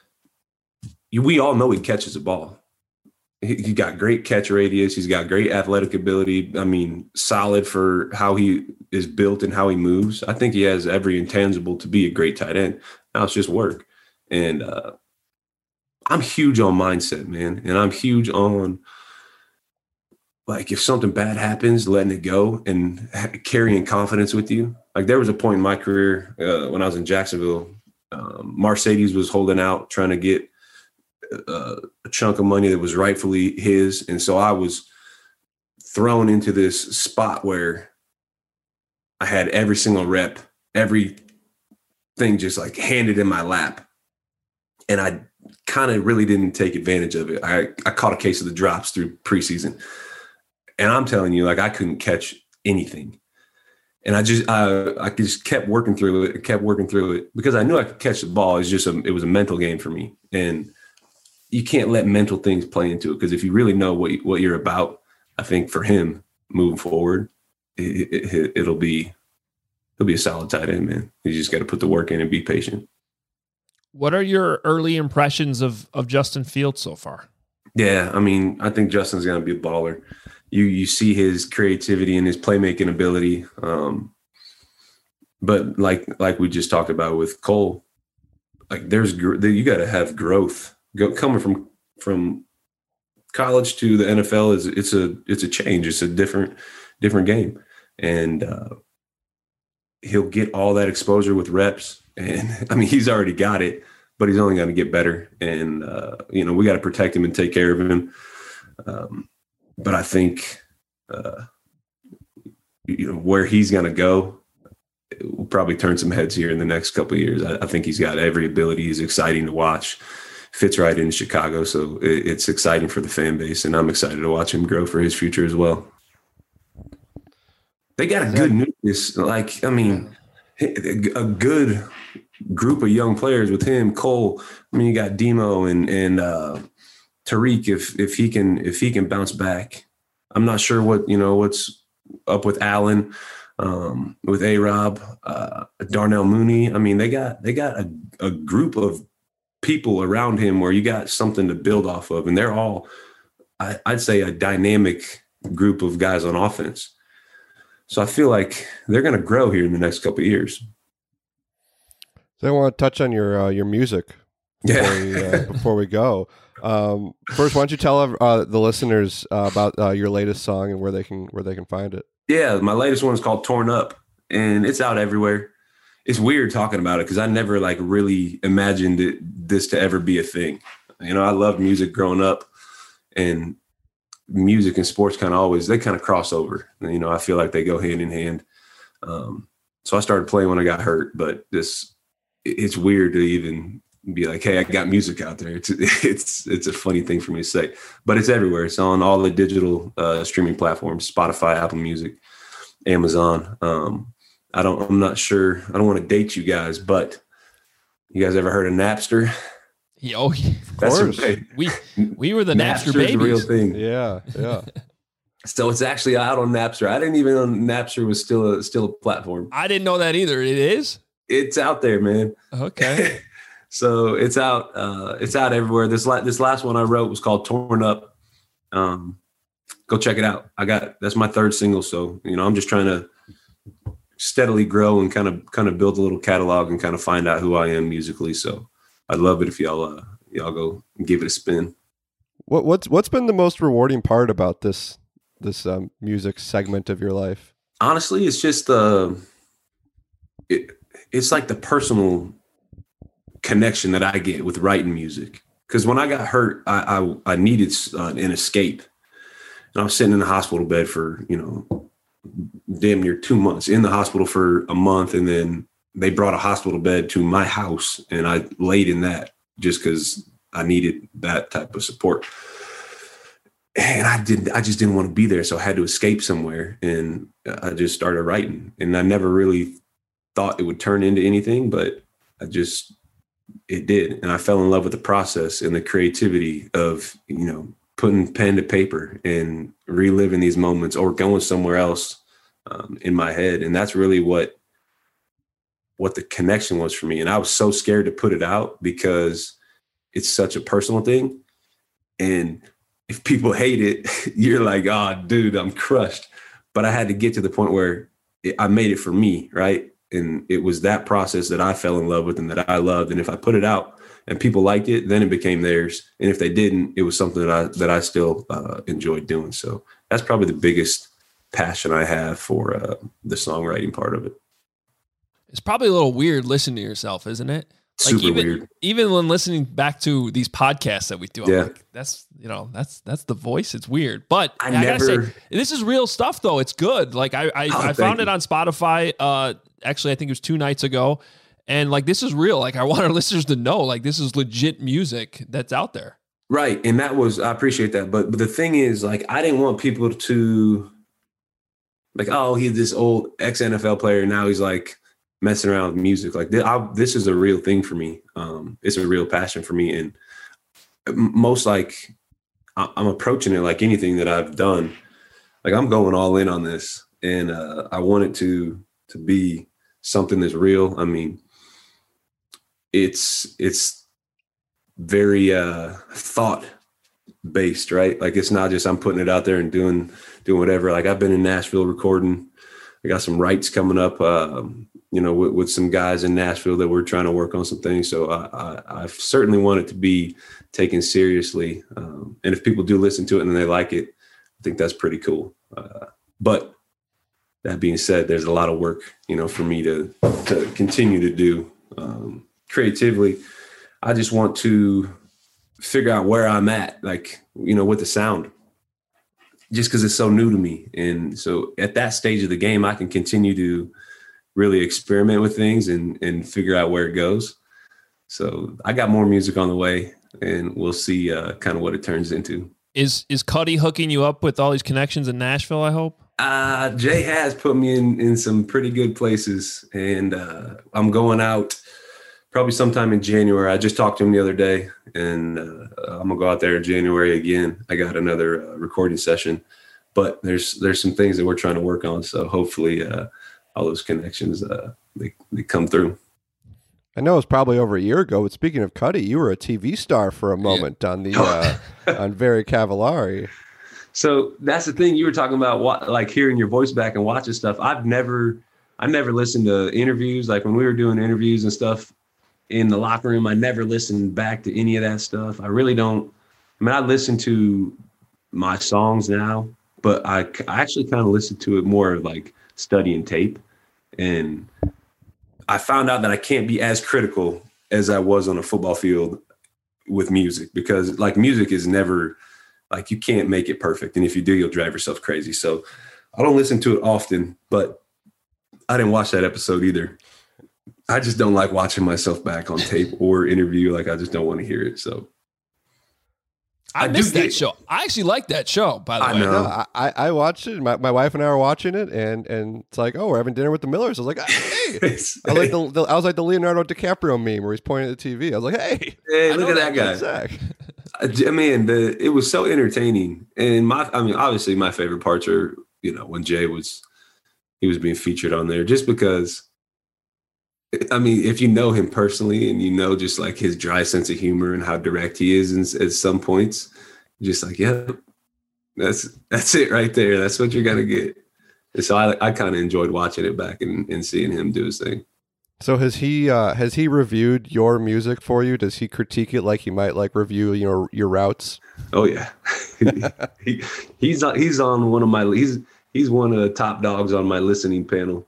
We all know he catches a ball. He got great catch radius. He's got great athletic ability. Solid for how he is built and how he moves. I think he has every intangible to be a great tight end. Now it's just work. And I'm huge on mindset, man. And I'm huge on, like, if something bad happens, letting it go and carrying confidence with you. Like, there was a point in my career when I was in Jacksonville, Mercedes was holding out, trying to get a chunk of money that was rightfully his. And so I was thrown into this spot where I had every single rep, everything just like handed in my lap. And I kind of really didn't take advantage of it. I caught a case of the drops through preseason. And I'm telling you, like, I couldn't catch anything. And I just kept working through it because I knew I could catch the ball. It was a mental game for me. And you can't let mental things play into it, because if you really know what you're about, I think for him moving forward, it'll be a solid tight end, man. You just got to put the work in and be patient. What are your early impressions of Justin Fields so far? Yeah, I think Justin's going to be a baller. You see his creativity and his playmaking ability. But like we just talked about with Cole, like you got to have growth. Coming from college to the NFL it's a change. It's a different game, and he'll get all that exposure with reps. And he's already got it, but he's only going to get better. And we got to protect him and take care of him. But I think where he's going to go, it will probably turn some heads here in the next couple of years. I think he's got every ability. He's exciting to watch. Fits right in Chicago, so it's exciting for the fan base, and I'm excited to watch him grow for his future as well. They got a good nucleus, a good group of young players with him. Cole, you got Demo and Tariq. If he can bounce back, I'm not sure what's up with Allen. with A-Rob, Darnell Mooney. I mean, they got a group of people around him where you got something to build off of, and they're all, I'd say, a dynamic group of guys on offense. So I feel like they're going to grow here in the next couple of years. So I want to touch on your music before we go. First, why don't you tell the listeners about your latest song and where they can find it? Yeah, my latest one is called Torn Up, and it's out everywhere. It's weird talking about it because I never like really imagined this to ever be a thing. You know, I loved music growing up, and music and sports kind of cross over. You know, I feel like they go hand in hand. So I started playing when I got hurt, but it's weird to even be like, hey, I got music out there. It's a funny thing for me to say, but it's everywhere. It's on all the digital streaming platforms, Spotify, Apple Music, Amazon. I'm not sure. I don't want to date you guys, but you guys ever heard of Napster? Oh, of course. We were the Napster babies. The real thing. Yeah. So it's actually out on Napster. I didn't even know Napster was still a platform. I didn't know that either. It is? It's out there, man. Okay. So it's out. It's out everywhere. This last one I wrote was called Torn Up. Go check it out. That's my third single. So, you know, I'm just trying to steadily grow and kind of build a little catalog and kind of find out who I am musically. So I'd love it if y'all go give it a spin. What's been the most rewarding part about this music segment of your life? Honestly, it's just it's like the personal connection that I get with writing music. Because when I got hurt, I needed an escape, and I was sitting in the hospital bed for, you know, damn near 2 months, in the hospital for a month, and then they brought a hospital bed to my house, and I laid in that just because I needed that type of support. And I just didn't want to be there, so I had to escape somewhere, and I just started writing. And I never really thought it would turn into anything, but it did. And I fell in love with the process and the creativity of, you know, putting pen to paper and reliving these moments or going somewhere else in my head. And that's really what the connection was for me. And I was so scared to put it out because it's such a personal thing. And if people hate it, you're like, oh, dude, I'm crushed. But I had to get to the point where I made it for me, right? And it was that process that I fell in love with and that I loved. And if I put it out and people liked it, then it became theirs. And if they didn't, it was something that I still enjoyed doing. So that's probably the biggest passion I have for the songwriting part of it. It's probably a little weird listening to yourself, isn't it? Like Super weird. Even when listening back to these podcasts that we do, I'm like, that's the voice. It's weird, but I gotta say, this is real stuff though. It's good. Like I found it on Spotify. Actually, I think it was 2 nights ago, and like this is real. Like I want our listeners to know, like this is legit music that's out there. Right, and I appreciate that. But the thing is, like, I didn't want people to like, oh, he's this old ex-NFL player, now he's like messing around with music. Like this is a real thing for me. It's a real passion for me. And most like I'm approaching it like anything that I've done. Like I'm going all in on this, and I want it to be something that's real. I mean, it's very thought based, right? Like it's not just I'm putting it out there and doing whatever. Like I've been in Nashville recording. I got some rights coming up, you know, with some guys in Nashville that we're trying to work on some things. So I certainly want it to be taken seriously. And if people do listen to it and they like it, I think that's pretty cool. But that being said, there's a lot of work, you know, for me to continue to do creatively. I just want to figure out where I'm at, like, you know, with the sound, just because it's so new to me. And so at that stage of the game, I can continue to really experiment with things and figure out where it goes. So I got more music on the way, and we'll see kind of what it turns into. Is Cuddy hooking you up with all these connections in Nashville, I hope? Jay has put me in some pretty good places, and I'm going out probably sometime in January. I just talked to him the other day, and I'm gonna go out there in January again. I got another recording session but there's some things that we're trying to work on. So hopefully all those connections, they come through. I know it was probably over a year ago, but speaking of Cuddy, you were a TV star for a moment on the on Very Cavallari. So that's the thing you were talking about, like hearing your voice back and watching stuff. I never listened to interviews. Like when we were doing interviews and stuff in the locker room, I never listened back to any of that stuff. I really don't. I mean, I listen to my songs now, but I actually kind of listen to it more like studying tape. And I found out that I can't be as critical as I was on a football field with music, because like music is never, like, you can't make it perfect. And if you do, you'll drive yourself crazy. So I don't listen to it often, but I didn't watch that episode either. I just don't like watching myself back on tape or interview. Like, I just don't want to hear it. So I missed that show. I actually like that show, by the way. No, I watched it. My wife and I were watching it, and it's like, oh, we're having dinner with the Millers. I was like, hey. I was like the Leonardo DiCaprio meme where he's pointing at the TV. I was like, hey, look at that guy. I mean, it was so entertaining. And obviously my favorite parts are, when Jay was being featured on there, just because, I mean, if you know him personally and just like his dry sense of humor and how direct he is at some points, just like, yeah, that's it right there. That's what you're going to get. And so I kind of enjoyed watching it back and seeing him do his thing. So has he reviewed your music for you? Does he critique it like he might like review your routes? Oh yeah. he's on one of my, he's one of the top dogs on my listening panel.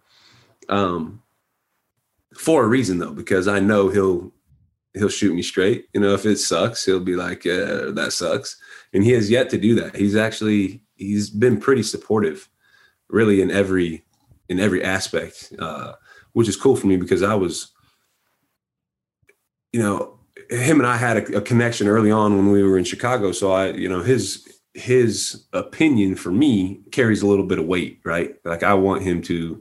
For a reason though, because I know he'll shoot me straight. If it sucks, he'll be like, yeah, that sucks. And he has yet to do that. He's been pretty supportive, really, in every aspect, which is cool for me, because I was, him and I had a connection early on when we were in Chicago. So his opinion for me carries a little bit of weight, right? Like, I want him to,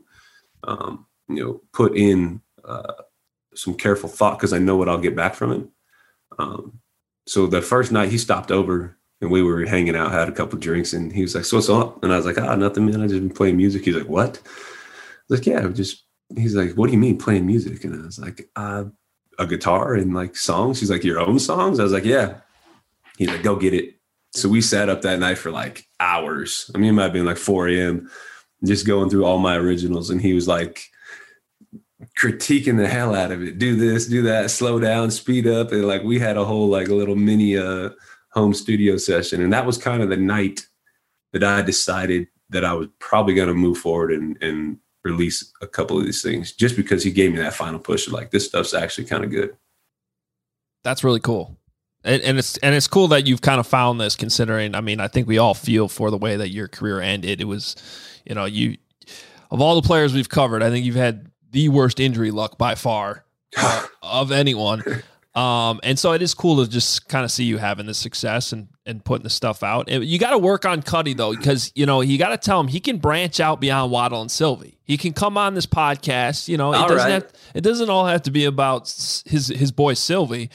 put in some careful thought, because I know what I'll get back from him. So the first night he stopped over and we were hanging out, had a couple of drinks, and he was like, so what's up? And I was like, nothing, man. I just been playing music. He's like, what? I was like, yeah, he's like, what do you mean playing music? And I was like, a guitar and like songs. He's like, your own songs? I was like, yeah. He's like, go get it. So we sat up that night for like hours. I mean, it might have been like 4 a.m. just going through all my originals. And he was like, critiquing the hell out of it. Do this, do that, slow down, speed up. And like, we had a whole like a little mini home studio session. And that was kind of the night that I decided that I was probably going to move forward and release a couple of these things, just because he gave me that final push of like, this stuff's actually kind of good. That's really cool. And it's cool that you've kind of found this, considering, I mean, I think we all feel for the way that your career ended. It was, you, of all the players we've covered, I think you've had the worst injury luck by far of anyone. And so it is cool to just kind of see you having the success and putting the stuff out. You got to work on Cuddy though, because, you got to tell him he can branch out beyond Waddle and Sylvie. He can come on this podcast. It doesn't all have to be about his boy Sylvie.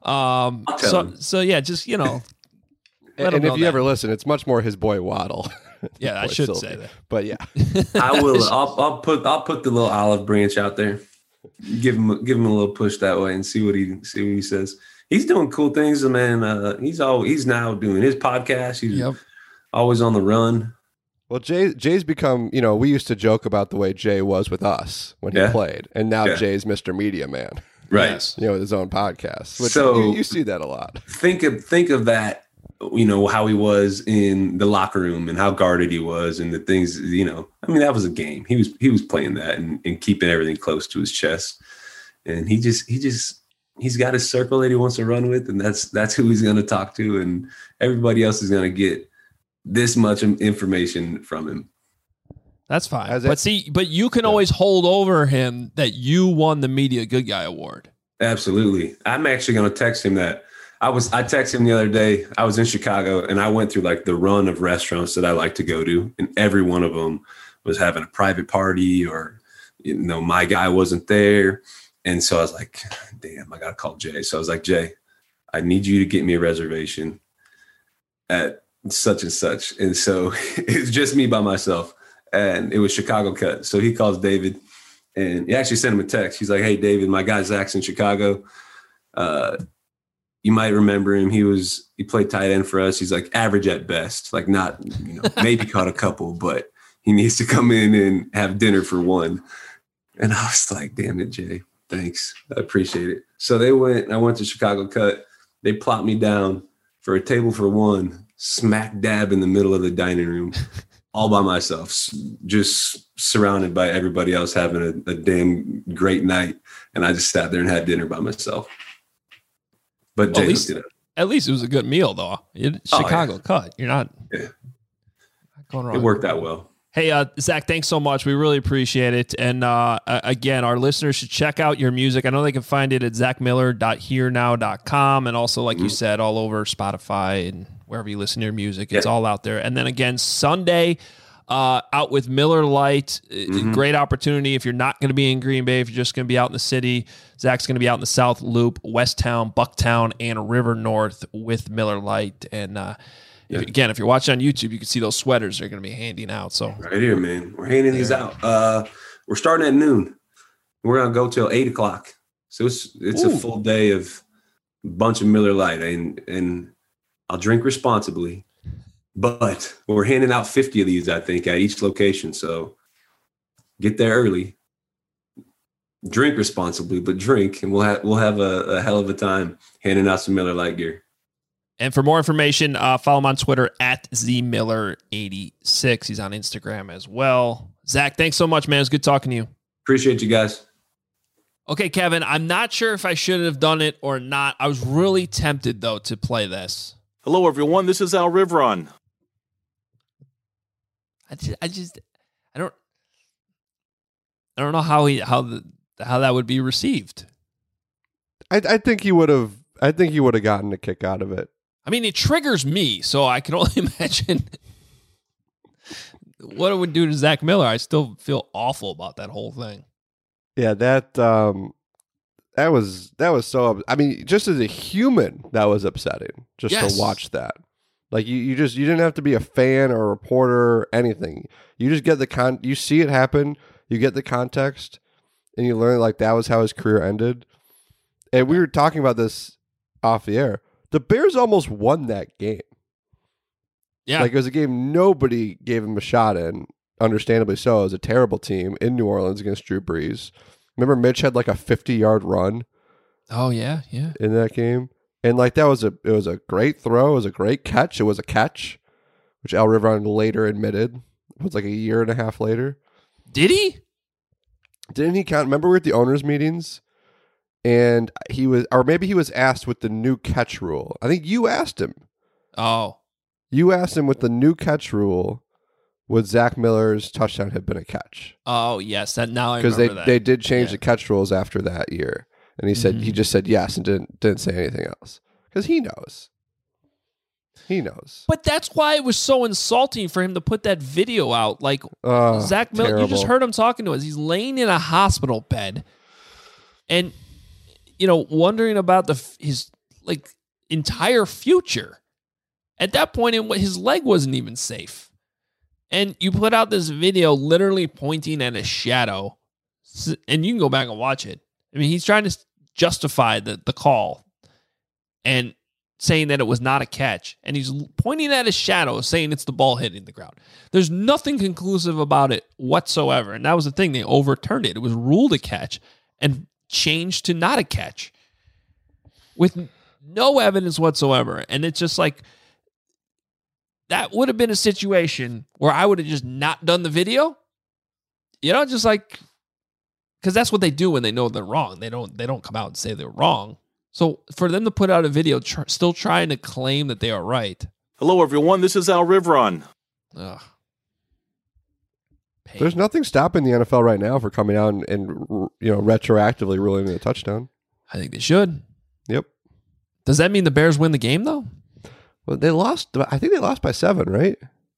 So yeah, just, and if you ever listen, it's much more his boy Waddle. Yeah, I should say that. But yeah, I will. I'll put the little olive branch out there. Give him a little push that way and see what he says. He's doing cool things, man. He's now doing his podcast. He's always on the run. Well, Jay's become, we used to joke about the way Jay was with us when he played, and now Jay's Mr. Media Man, right? Yes. With his own podcast. Which so you see that a lot. Think of that. How he was in the locker room and how guarded he was and the things, that was a game. He was playing that and keeping everything close to his chest. And he's got his circle that he wants to run with. And that's who he's going to talk to. And everybody else is going to get this much information from him. That's fine. But you can always hold over him that you won the Media Good Guy Award. Absolutely. I'm actually going to text him that. I texted him the other day. I was in Chicago and I went through like the run of restaurants that I like to go to. And every one of them was having a private party or, my guy wasn't there. And so I was like, damn, I got to call Jay. So I was like, Jay, I need you to get me a reservation at such and such. And so it's just me by myself. And it was Chicago cut. So he calls David and he actually sent him a text. He's like, hey, David, my guy Zach's in Chicago. You might remember him. He played tight end for us. He's like average at best, like not, maybe caught a couple, but he needs to come in and have dinner for one. And I was like, damn it, Jay. Thanks. I appreciate it. So I went to Chicago cut. They plopped me down for a table for one, smack dab in the middle of the dining room, all by myself, just surrounded by everybody else having a damn great night. And I just sat there and had dinner by myself. But well, at least it was a good meal, though. Chicago cut. You're not going wrong. It worked out well. Hey, Zach, thanks so much. We really appreciate it. And again, our listeners should check out your music. I know they can find it at zachmiller.hearnow.com. And also, like you said, all over Spotify and wherever you listen to your music. It's all out there. And then again, Sunday, out with Miller Lite. Great opportunity if you're not going to be in Green Bay, if you're just going to be out in the city. Zach's going to be out in the South Loop, West Town, Bucktown, and River North with Miller Lite. And if you're watching on YouTube, you can see those sweaters they're going to be handing out. So right here, man, we're handing these out. We're starting at noon. We're going to go till 8:00. So it's a full day of a bunch of Miller Lite, and I'll drink responsibly. But we're handing out 50 of these, I think, at each location. So get there early, drink responsibly, but drink, and we'll have a hell of a time handing out some Miller Lite gear. And for more information, follow him on Twitter at ZMiller86. He's on Instagram as well. Zach, thanks so much, man. It's good talking to you. Appreciate you guys. Okay, Kevin, I'm not sure if I should have done it or not. I was really tempted, though, to play this. Hello, everyone. This is Al Riveron. I don't know how that would be received. I think he would have gotten a kick out of it. I mean, it triggers me, so I can only imagine what it would do to Zach Miller. I still feel awful about that whole thing. Yeah, that was so. I mean, just as a human, that was upsetting. Just to watch that. Like you didn't have to be a fan or a reporter or anything. You just get you see it happen, you get the context, and you learn like that was how his career ended. And we were talking about this off the air. The Bears almost won that game. Yeah. Like it was a game nobody gave him a shot in, understandably so. It was a terrible team in New Orleans against Drew Brees. Remember Mitch had like a 50-yard run. Oh yeah, yeah. In that game. And like it was a great throw, it was a great catch. It was a catch, which Al Riveron later admitted. It was like a year and a half later. Did he? Didn't he count? Remember we were at the owners' meetings, and he was asked with the new catch rule. I think you asked him. Oh. You asked him with the new catch rule, would Zach Miller's touchdown have been a catch? Oh yes, now I remember that. Because they did change the catch rules after that year. And he said he just said yes and didn't say anything else because he knows. He knows. But that's why it was so insulting for him to put that video out. Like Zach Miller, you just heard him talking to us. He's laying in a hospital bed, and wondering about his like entire future. At that point, his leg wasn't even safe, and you put out this video literally pointing at a shadow, and you can go back and watch it. I mean, he's trying to justify the call and saying that it was not a catch. And he's pointing at his shadow, saying it's the ball hitting the ground. There's nothing conclusive about it whatsoever. And that was the thing. They overturned it. It was ruled a catch and changed to not a catch with no evidence whatsoever. And it's just like, that would have been a situation where I would have just not done the video. Just like... Because that's what they do when they know they're wrong. They don't come out and say they're wrong. So for them to put out a video still trying to claim that they are right. Hello, everyone. This is Al Riveron. Ugh. There's nothing stopping the NFL right now for coming out and retroactively ruling it a touchdown. I think they should. Yep. Does that mean the Bears win the game, though? Well, they lost. I think they lost by 7, right?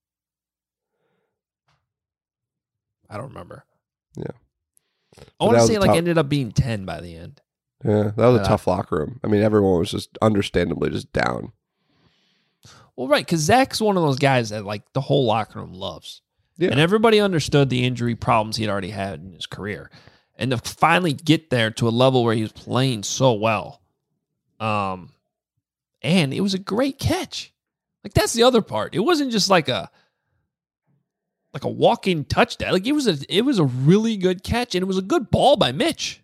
I don't remember. Yeah. I want to say ended up being 10 by the end. Yeah, that was a tough locker room. I mean, everyone was just understandably just down. Well, right, because Zach's one of those guys that like the whole locker room loves. Yeah. And everybody understood the injury problems he had already had in his career. And to finally get there to a level where he was playing so well. And it was a great catch. Like, that's the other part. It wasn't just like a walk-in touchdown. Like, it was a really good catch, and it was a good ball by Mitch.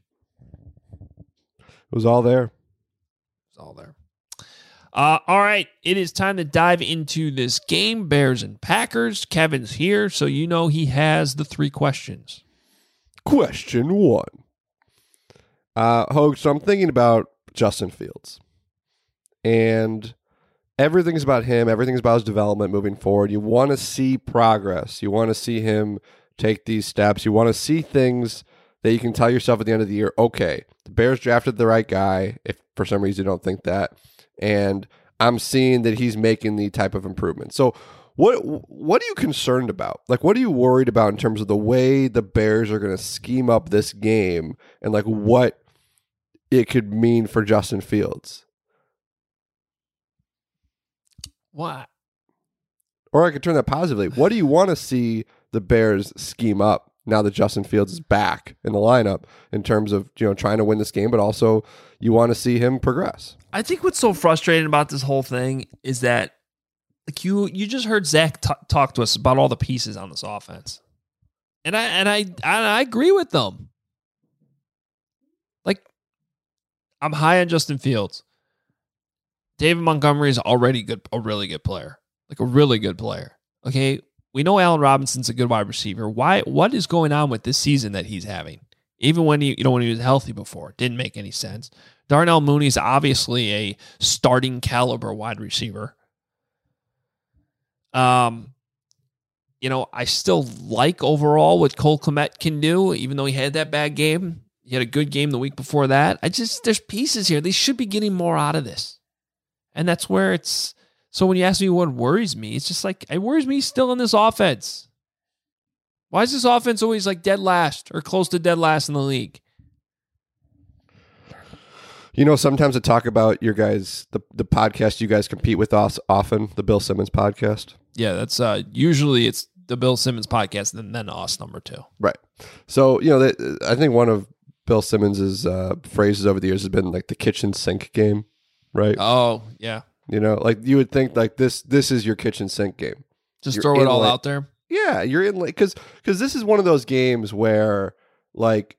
It was all there. It's all there. All right, it is time to dive into this game, Bears and Packers. Kevin's here, so you know he has the 3 questions. Question 1. Hogue, so I'm thinking about Justin Fields. And everything's about him. Everything's about his development moving forward. You want to see progress. You want to see him take these steps. You want to see things that you can tell yourself at the end of the year, okay, the Bears drafted the right guy, if for some reason you don't think that. And I'm seeing that he's making the type of improvement. So what are you concerned about? Like, what are you worried about in terms of the way the Bears are going to scheme up this game and like what it could mean for Justin Fields? What? Or I could turn that positively. What do you want to see the Bears scheme up now that Justin Fields is back in the lineup in terms of, trying to win this game, but also you want to see him progress? I think what's so frustrating about this whole thing is that like you just heard Zach talk to us about all the pieces on this offense. And I agree with them. Like, I'm high on Justin Fields. David Montgomery is already a really good player. Like a really good player. Okay, we know Allen Robinson's a good wide receiver. What is going on with this season that he's having? Even when he was healthy before, it didn't make any sense. Darnell Mooney is obviously a starting caliber wide receiver. I still like overall what Cole Kmet can do, even though he had that bad game. He had a good game the week before that. There's pieces here. They should be getting more out of this. And that's where it's, so when you ask me what worries me, it's just like, it worries me still in this offense. Why is this offense always like dead last or close to dead last in the league? Sometimes I talk about your guys, the podcast you guys compete with us often, the Bill Simmons podcast. Yeah, that's usually it's the Bill Simmons podcast and then us number 2. Right. So, I think one of Bill Simmons's phrases over the years has been like the kitchen sink game, right? Oh, yeah. Like you would think like this is your kitchen sink game. Just throw it all out there. Yeah, you're in like because this is one of those games where like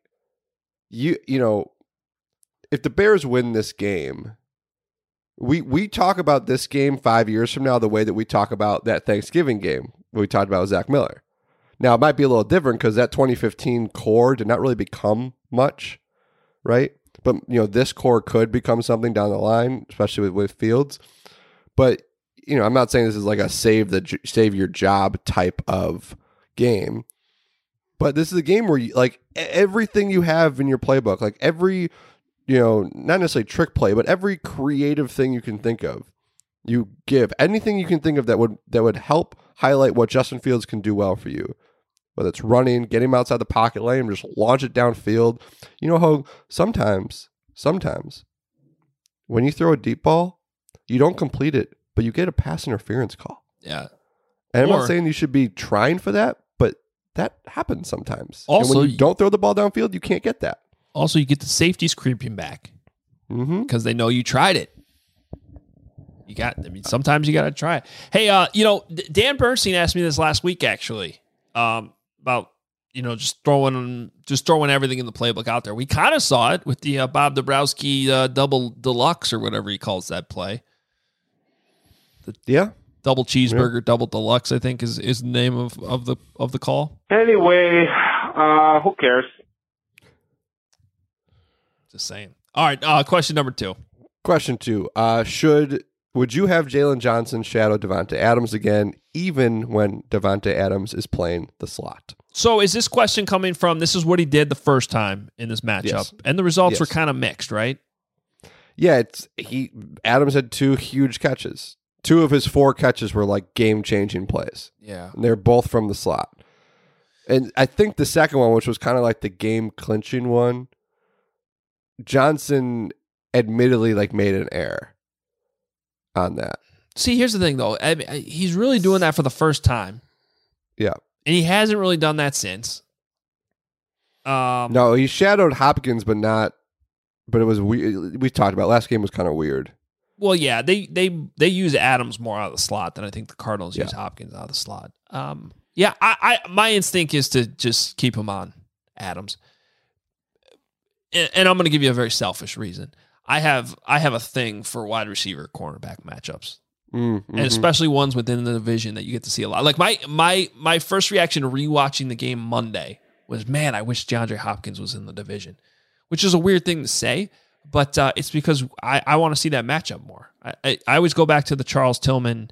if the Bears win this game, we talk about this game 5 years from now the way that we talk about that Thanksgiving game we talked about with Zach Miller. Now, it might be a little different because that 2015 core did not really become much, right? But, this core could become something down the line, especially with Fields. But, I'm not saying this is like a save your job type of game. But this is a game where like everything you have in your playbook, like every not necessarily trick play, but every creative thing you can think of, you give anything you can think of that would help highlight what Justin Fields can do well for you. Whether it's running, getting him outside the pocket, letting him just launch it downfield. Hogue, sometimes when you throw a deep ball, you don't complete it, but you get a pass interference call. Yeah. And I'm not saying you should be trying for that, but that happens sometimes. Also, and when you don't throw the ball downfield, you can't get that. Also, you get the safeties creeping back because they know you tried it. Sometimes you got to try it. Hey, Dan Bernstein asked me this last week, actually, about, just throwing everything in the playbook out there. We kind of saw it with the Bob Dabrowski double deluxe or whatever he calls that play. Double cheeseburger, double deluxe, I think is the name of the call. Anyway, who cares? Just saying. All right. Question number 2. Question 2. Would you have Jalen Johnson shadow Davante Adams again, even when Davante Adams is playing the slot? So is this question coming from, this is what he did the first time in this matchup, Yes. and the results were kind of mixed, right? Yeah, Adams had 2 huge catches. 2 of his 4 catches were like game-changing plays. Yeah. And they're both from the slot. And I think the second one, which was kind of like the game-clinching one, Johnson admittedly like made an error on that. See, here's the thing, though. I mean, he's really doing that for the first time. Yeah. And he hasn't really done that since. No, he shadowed Hopkins, but it was weird. We talked about last game was kind of weird. Well, yeah, they use Adams more out of the slot than I think the Cardinals use Hopkins out of the slot. Yeah, my instinct is to just keep him on Adams. And I'm going to give you a very selfish reason. I have a thing for wide receiver cornerback matchups. Mm-hmm. And especially ones within the division that you get to see a lot. Like my first reaction to rewatching the game Monday was, man, I wish DeAndre Hopkins was in the division, which is a weird thing to say, but it's because I want to see that matchup more. I always go back to the Charles Tillman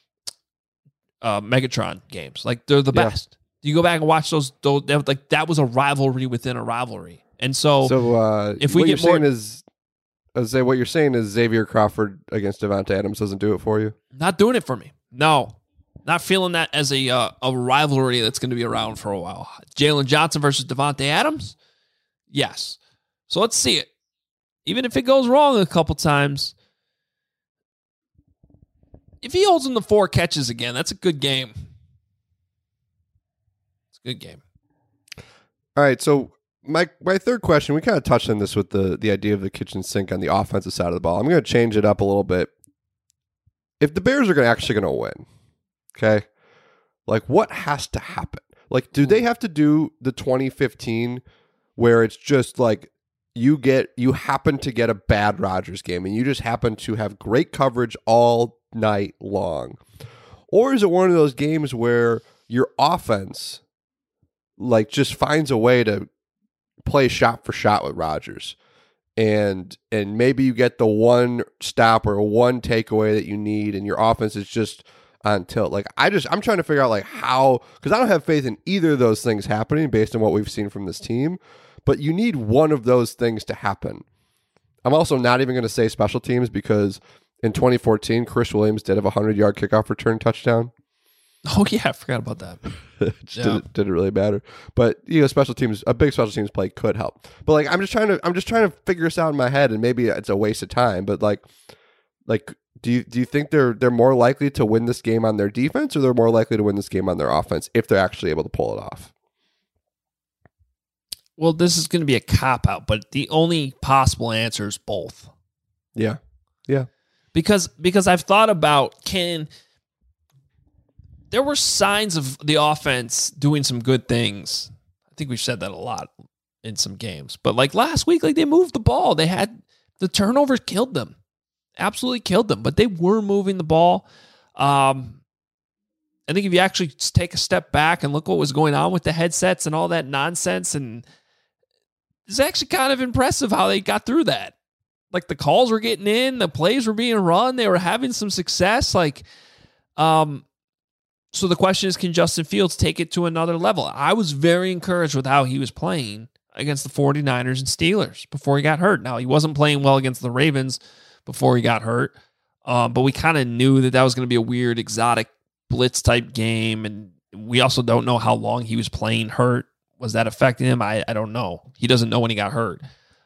Megatron games. Like, they're the best. You go back and watch those like, that was a rivalry within a rivalry. And so if we get more... what you're saying is Xavier Crawford against Devontae Adams doesn't do it for you? Not doing it for me. No. Not feeling that as a rivalry that's going to be around for a while. Jalen Johnson versus Devontae Adams? Yes. So let's see it. Even if it goes wrong a couple times, if he holds him to 4 catches again, that's a good game. It's a good game. All right, so my third question, we kind of touched on this with the idea of the kitchen sink on the offensive side of the ball. I'm going to change it up a little bit. If the Bears are actually going to win, okay, like, what has to happen? Like, do they have to do the 2015 where it's just like you happen to get a bad Rodgers game and you just happen to have great coverage all night long? Or is it one of those games where your offense like just finds a way to play shot for shot with Rodgers, and maybe you get the one stop or one takeaway that you need, and your offense is just on tilt? Like, I'm trying to figure out like how, because I don't have faith in either of those things happening based on what we've seen from this team, but you need one of those things to happen. I'm also not even going to say special teams, because in 2014, Chris Williams did have a 100-yard kickoff return touchdown. Oh yeah, I forgot about that. Didn't really matter, but special teams, a big special teams play could help. But like, I'm just trying to figure this out in my head, and maybe it's a waste of time. But like, do you think they're more likely to win this game on their defense, or they're more likely to win this game on their offense if they're actually able to pull it off? Well, this is going to be a cop out, but the only possible answer is both. Yeah. Because I've thought about, there were signs of the offense doing some good things. I think we've said that a lot in some games. But like last week, like, they moved the ball. They had the turnovers killed them. Absolutely killed them. But they were moving the ball. I think if you actually take a step back and look what was going on with the headsets and all that nonsense, and it's actually kind of impressive how they got through that. Like, the calls were getting in, the plays were being run, they were having some success. Like, so the question is, can Justin Fields take it to another level? I was very encouraged with how he was playing against the 49ers and Steelers before he got hurt. Now, he wasn't playing well against the Ravens before he got hurt, but we kind of knew that was going to be a weird, exotic blitz type game, and we also don't know how long he was playing hurt. Was that affecting him? I don't know. He doesn't know when he got hurt.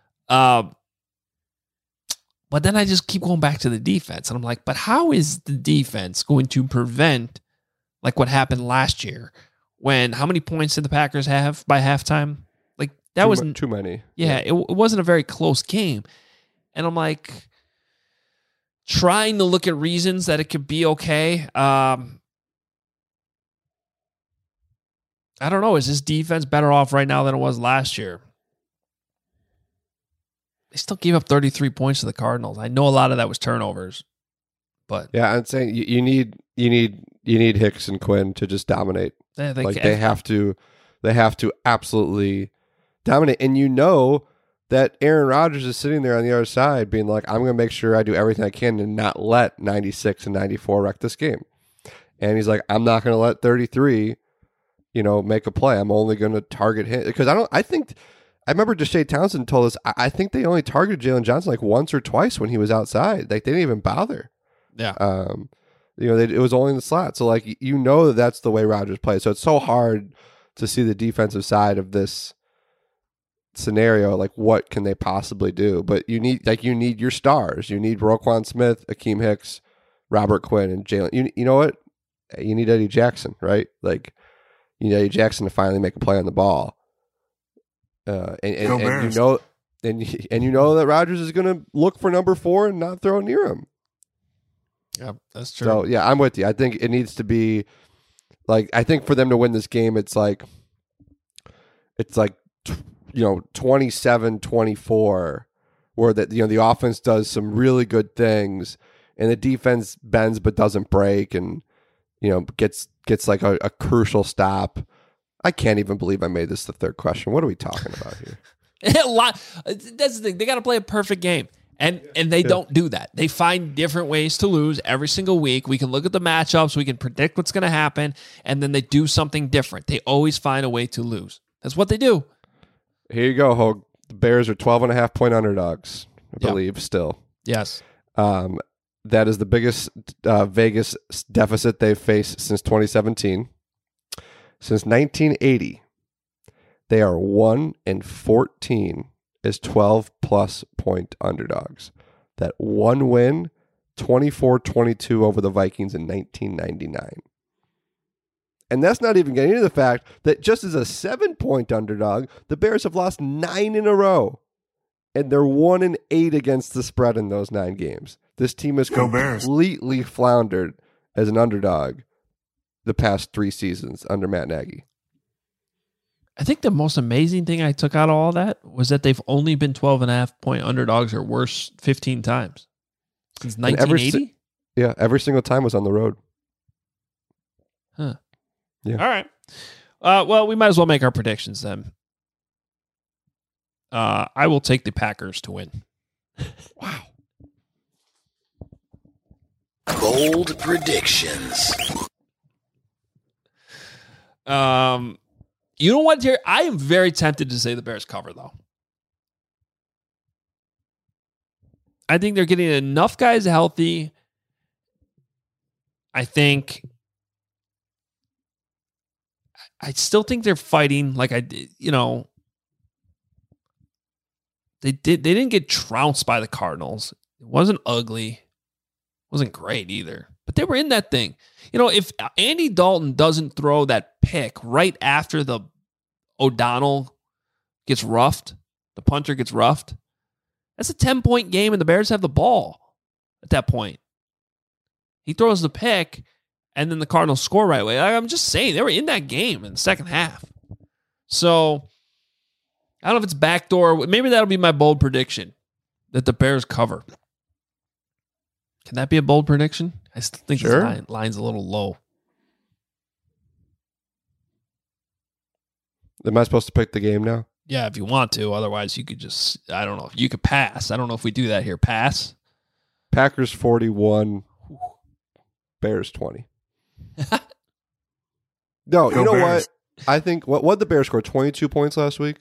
But then I just keep going back to the defense, and I'm like, but how is the defense going to prevent like what happened last year, when how many points did the Packers have by halftime? Like, that wasn't too many. Yeah, it wasn't a very close game. And I'm like, trying to look at reasons that it could be okay. I don't know. Is this defense better off right now than it was last year? They still gave up 33 points to the Cardinals. I know a lot of that was turnovers, but yeah, I'm saying you need Hicks and Quinn to just dominate. They have to absolutely dominate. And you know that Aaron Rodgers is sitting there on the other side being like, I'm going to make sure I do everything I can to not let 96 and 94 wreck this game. And he's like, I'm not going to let 33, make a play. I'm only going to target him, because I remember Deshae Townsend told us, I think they only targeted Jalen Johnson like once or twice when he was outside. Like, they didn't even bother. Yeah. It was only in the slot. So, like, that's the way Rodgers plays. So it's so hard to see the defensive side of this scenario. Like, what can they possibly do? But you need your stars. You need Roquan Smith, Akeem Hicks, Robert Quinn and Jalen. You know what? You need Eddie Jackson, right? Like, you need Eddie Jackson to finally make a play on the ball. And you know that Rodgers is going to look for number 4 and not throw near him. Yeah, that's true. So yeah, I'm with you. I think it needs to be like, I think for them to win this game, it's like 27-24, where that the offense does some really good things and the defense bends but doesn't break, and gets like a crucial stop. I can't even believe I made this the third question. What are we talking about here? That's the thing. They got to play a perfect game. And they don't do that. They find different ways to lose every single week. We can look at the matchups. We can predict what's going to happen. And then they do something different. They always find a way to lose. That's what they do. Here you go, Hogue. The Bears are 12.5-point underdogs, I believe, still. Yes. That is the biggest Vegas deficit they've faced since 2017. Since 1980, they are 1-14 as 12-plus point underdogs. That one win, 24-22 over the Vikings in 1999. And that's not even getting into the fact that just as a 7-point underdog, the Bears have lost 9 in a row. And they're 1-8 against the spread in those 9 games. This team has completely floundered as an underdog the past 3 seasons under Matt Nagy. I think the most amazing thing I took out of all that was that they've only been 12.5-point underdogs or worse 15 times since 1980. Every single time was on the road. Huh. Yeah. All right. Well, we might as well make our predictions then. I will take the Packers to win. Wow. Bold predictions. You know what, Jerry? I am very tempted to say the Bears cover, though. I think they're getting enough guys healthy. I still think they're fighting like I did, They didn't get trounced by the Cardinals. It wasn't ugly. It wasn't great either. But they were in that thing. If Andy Dalton doesn't throw that pick right after the O'Donnell gets roughed, the punter gets roughed, that's a 10-point game and the Bears have the ball at that point. He throws the pick and then the Cardinals score right away. I'm just saying, they were in that game in the second half. So I don't know if it's backdoor. Maybe that'll be my bold prediction, that the Bears cover. Can that be a bold prediction? I still think the line's a little low. Am I supposed to pick the game now? Yeah, if you want to. Otherwise, you could just, I don't know. You could pass. I don't know if we do that here. Pass. Packers 41, Bears 20. No, you know Bears. What? I think, what did the Bears score? 22 points last week?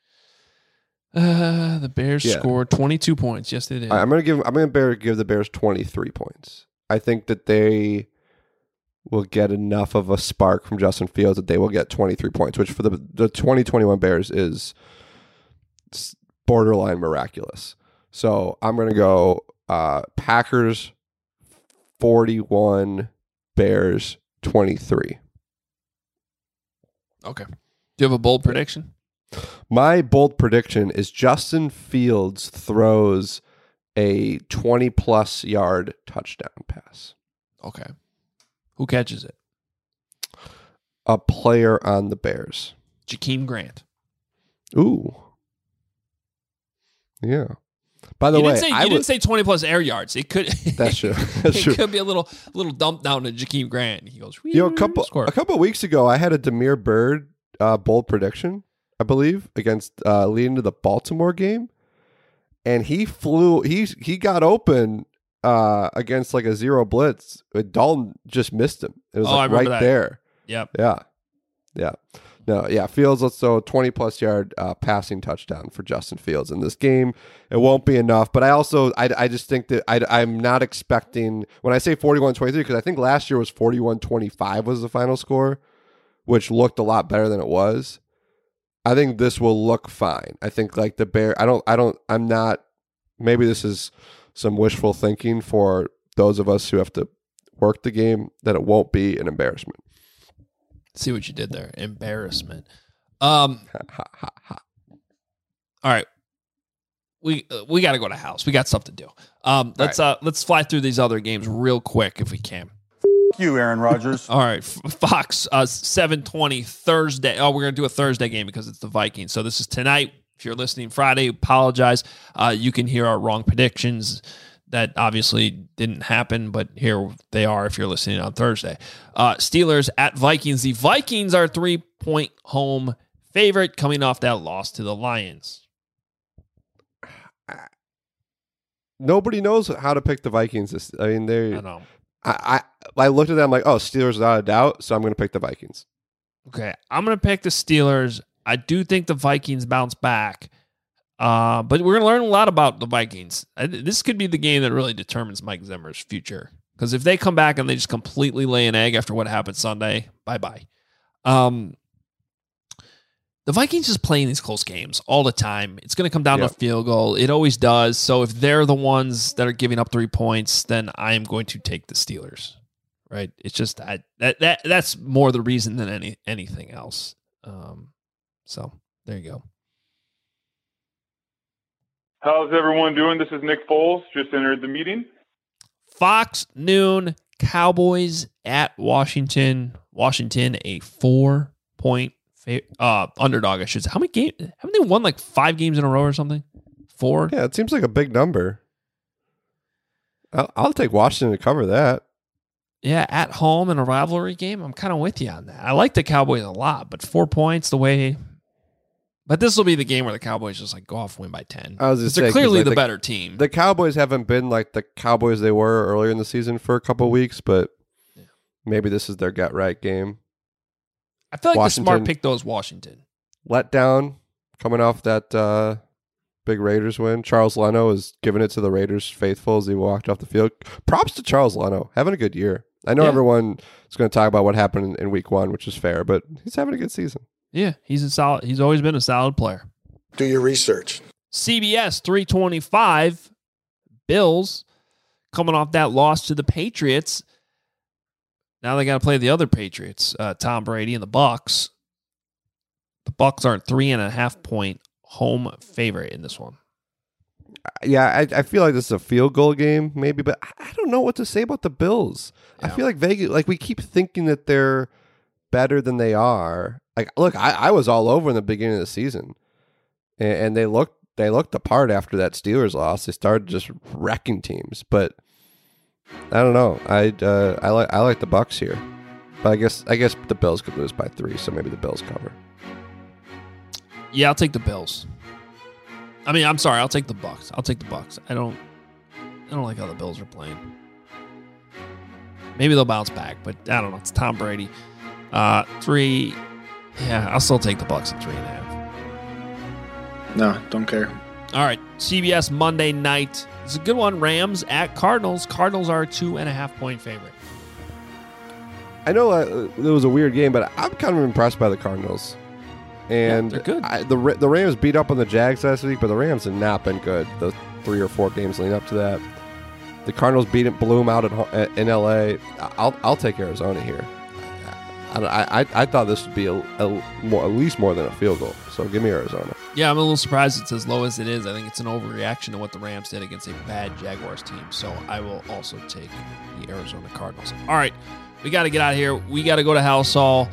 The Bears scored 22 points. Yes, they did. I'm gonna give the Bears 23 points. I think that they will get enough of a spark from Justin Fields that they will get 23 points, which for the 2021 Bears is borderline miraculous. So I'm gonna go Packers 41, Bears 23. Okay. Do you have a bold prediction? My bold prediction is Justin Fields throws a 20-plus yard touchdown pass. Okay. Who catches it? A player on the Bears. Jakeem Grant. Ooh. Yeah. By the way, you didn't say 20-plus air yards. It could. That's true. It could be a little dump down to Jakeem Grant. He goes. A couple of weeks ago, I had a Damiere Byrd bold prediction, I believe, against leading to the Baltimore game, and he flew. He got open against like a zero blitz. Dalton just missed him. It was right there. Yep. Yeah. No, yeah. Fields, let's throw a 20-plus yard passing touchdown for Justin Fields in this game. It won't be enough, but I just think that I'm not expecting, when I say 41-23, because I think last year was 41-25 was the final score, which looked a lot better than it was. I think this will look fine. I think like the Bear, I'm not, maybe this is some wishful thinking for those of us who have to work the game that it won't be an embarrassment. See what you did there. Embarrassment. All right. We got to go to house. We got stuff to do. Let's fly through these other games real quick if we can. You, Aaron Rodgers. All right, Fox 7:20 Thursday. Oh, we're gonna do a Thursday game because it's the Vikings. So this is tonight. If you're listening Friday, apologize. You can hear our wrong predictions that obviously didn't happen, but here they are if you're listening on Thursday. Steelers at Vikings. The Vikings are 3-point home favorite coming off that loss to the Lions. Nobody knows how to pick the Vikings. I mean, I know. I looked at them like, oh, Steelers without a doubt, so I'm going to pick the Vikings. Okay, I'm going to pick the Steelers. I do think the Vikings bounce back, but we're going to learn a lot about the Vikings. This could be the game that really determines Mike Zimmer's future, because if they come back and they just completely lay an egg after what happened Sunday, bye-bye. The Vikings just playing these close games all the time. It's going to come down to a field goal. It always does. So if they're the ones that are giving up 3 points, then I am going to take the Steelers. Right? It's just that's more the reason than anything else. So there you go. How's everyone doing? This is Nick Foles. Just entered the meeting. Fox noon, Cowboys at Washington. Washington, a 4-point underdog, I should say. How many games? Haven't they won like 5 games in a row or something? 4? Yeah, it seems like a big number. I'll take Washington to cover that. Yeah, at home in a rivalry game, I'm kind of with you on that. I like the Cowboys a lot, but 4 points the way. But this will be the game where the Cowboys just like go off and win by 10. I was just saying, they're clearly the better team. The Cowboys haven't been like the Cowboys they were earlier in the season for a couple of weeks, but maybe this is their get right game. I feel like Washington, the smart pick though is Washington. Let down coming off that big Raiders win. Charles Leno is giving it to the Raiders faithful as he walked off the field. Props to Charles Leno, having a good year. I know everyone is going to talk about what happened in week 1, which is fair, but he's having a good season. Yeah, he's always been a solid player. Do your research. CBS 325, Bills coming off that loss to the Patriots. Now they got to play the other Patriots, Tom Brady and the Bucs. The Bucs are a 3.5-point home favorite in this one. Yeah, I feel like this is a field goal game, maybe, but I don't know what to say about the Bills. Yeah. I feel like Vegas, like we keep thinking that they're better than they are. Like, look, I was all over in the beginning of the season, and they looked the part after that Steelers loss. They started just wrecking teams, but I don't know. I like the Bucs here, but I guess the Bills could lose by 3, so maybe the Bills cover. Yeah, I'll take the Bills. I mean, I'm sorry. I'll take the Bucs. I don't like how the Bills are playing. Maybe they'll bounce back, but I don't know. It's Tom Brady. 3. Yeah, I'll still take the Bucs at 3.5. No, don't care. All right, CBS Monday night. It's a good one. Rams at Cardinals. Cardinals are a 2.5-point favorite. I know it was a weird game, but I'm kind of impressed by the Cardinals. And they're good. The Rams beat up on the Jags last week, but the Rams have not been good the 3 or 4 games leading up to that. The Cardinals blew them out in L.A. I'll take Arizona here. I thought this would be at least more than a field goal, so give me Arizona. Yeah, I'm a little surprised it's as low as it is. I think it's an overreaction to what the Rams did against a bad Jaguars team, so I will also take the Arizona Cardinals. All right, we got to get out of here. We got to go to House Hall.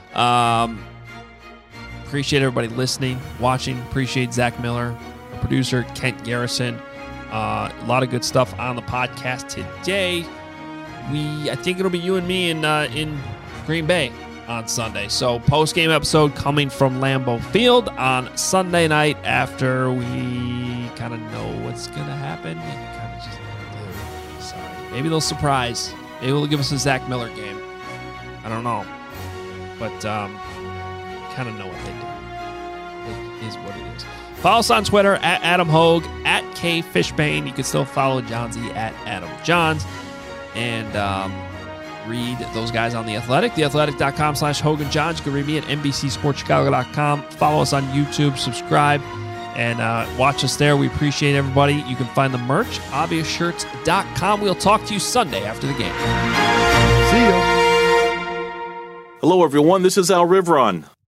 Appreciate everybody listening, watching. Appreciate Zach Miller, our producer, Kent Garrison. A lot of good stuff on the podcast today. I think it'll be you and me in Green Bay on Sunday. So post-game episode coming from Lambeau Field on Sunday night after we kind of know what's going to happen. Kind of just sorry. Maybe they'll surprise. Maybe they'll give us a Zach Miller game. I don't know. But kind of know what they do. It is what it is. Follow us on Twitter at Adam Hogue, at K Fishbane. You can still follow Johnsy at Adam Johns. And read those guys on The Athletic, theathletic.com/Hogan Johns. You can read me at NBCSportsChicago.com. Follow us on YouTube, subscribe, and watch us there. We appreciate everybody. You can find the merch, obviousshirts.com. We'll talk to you Sunday after the game. See you. Hello, everyone. This is Al Rivron.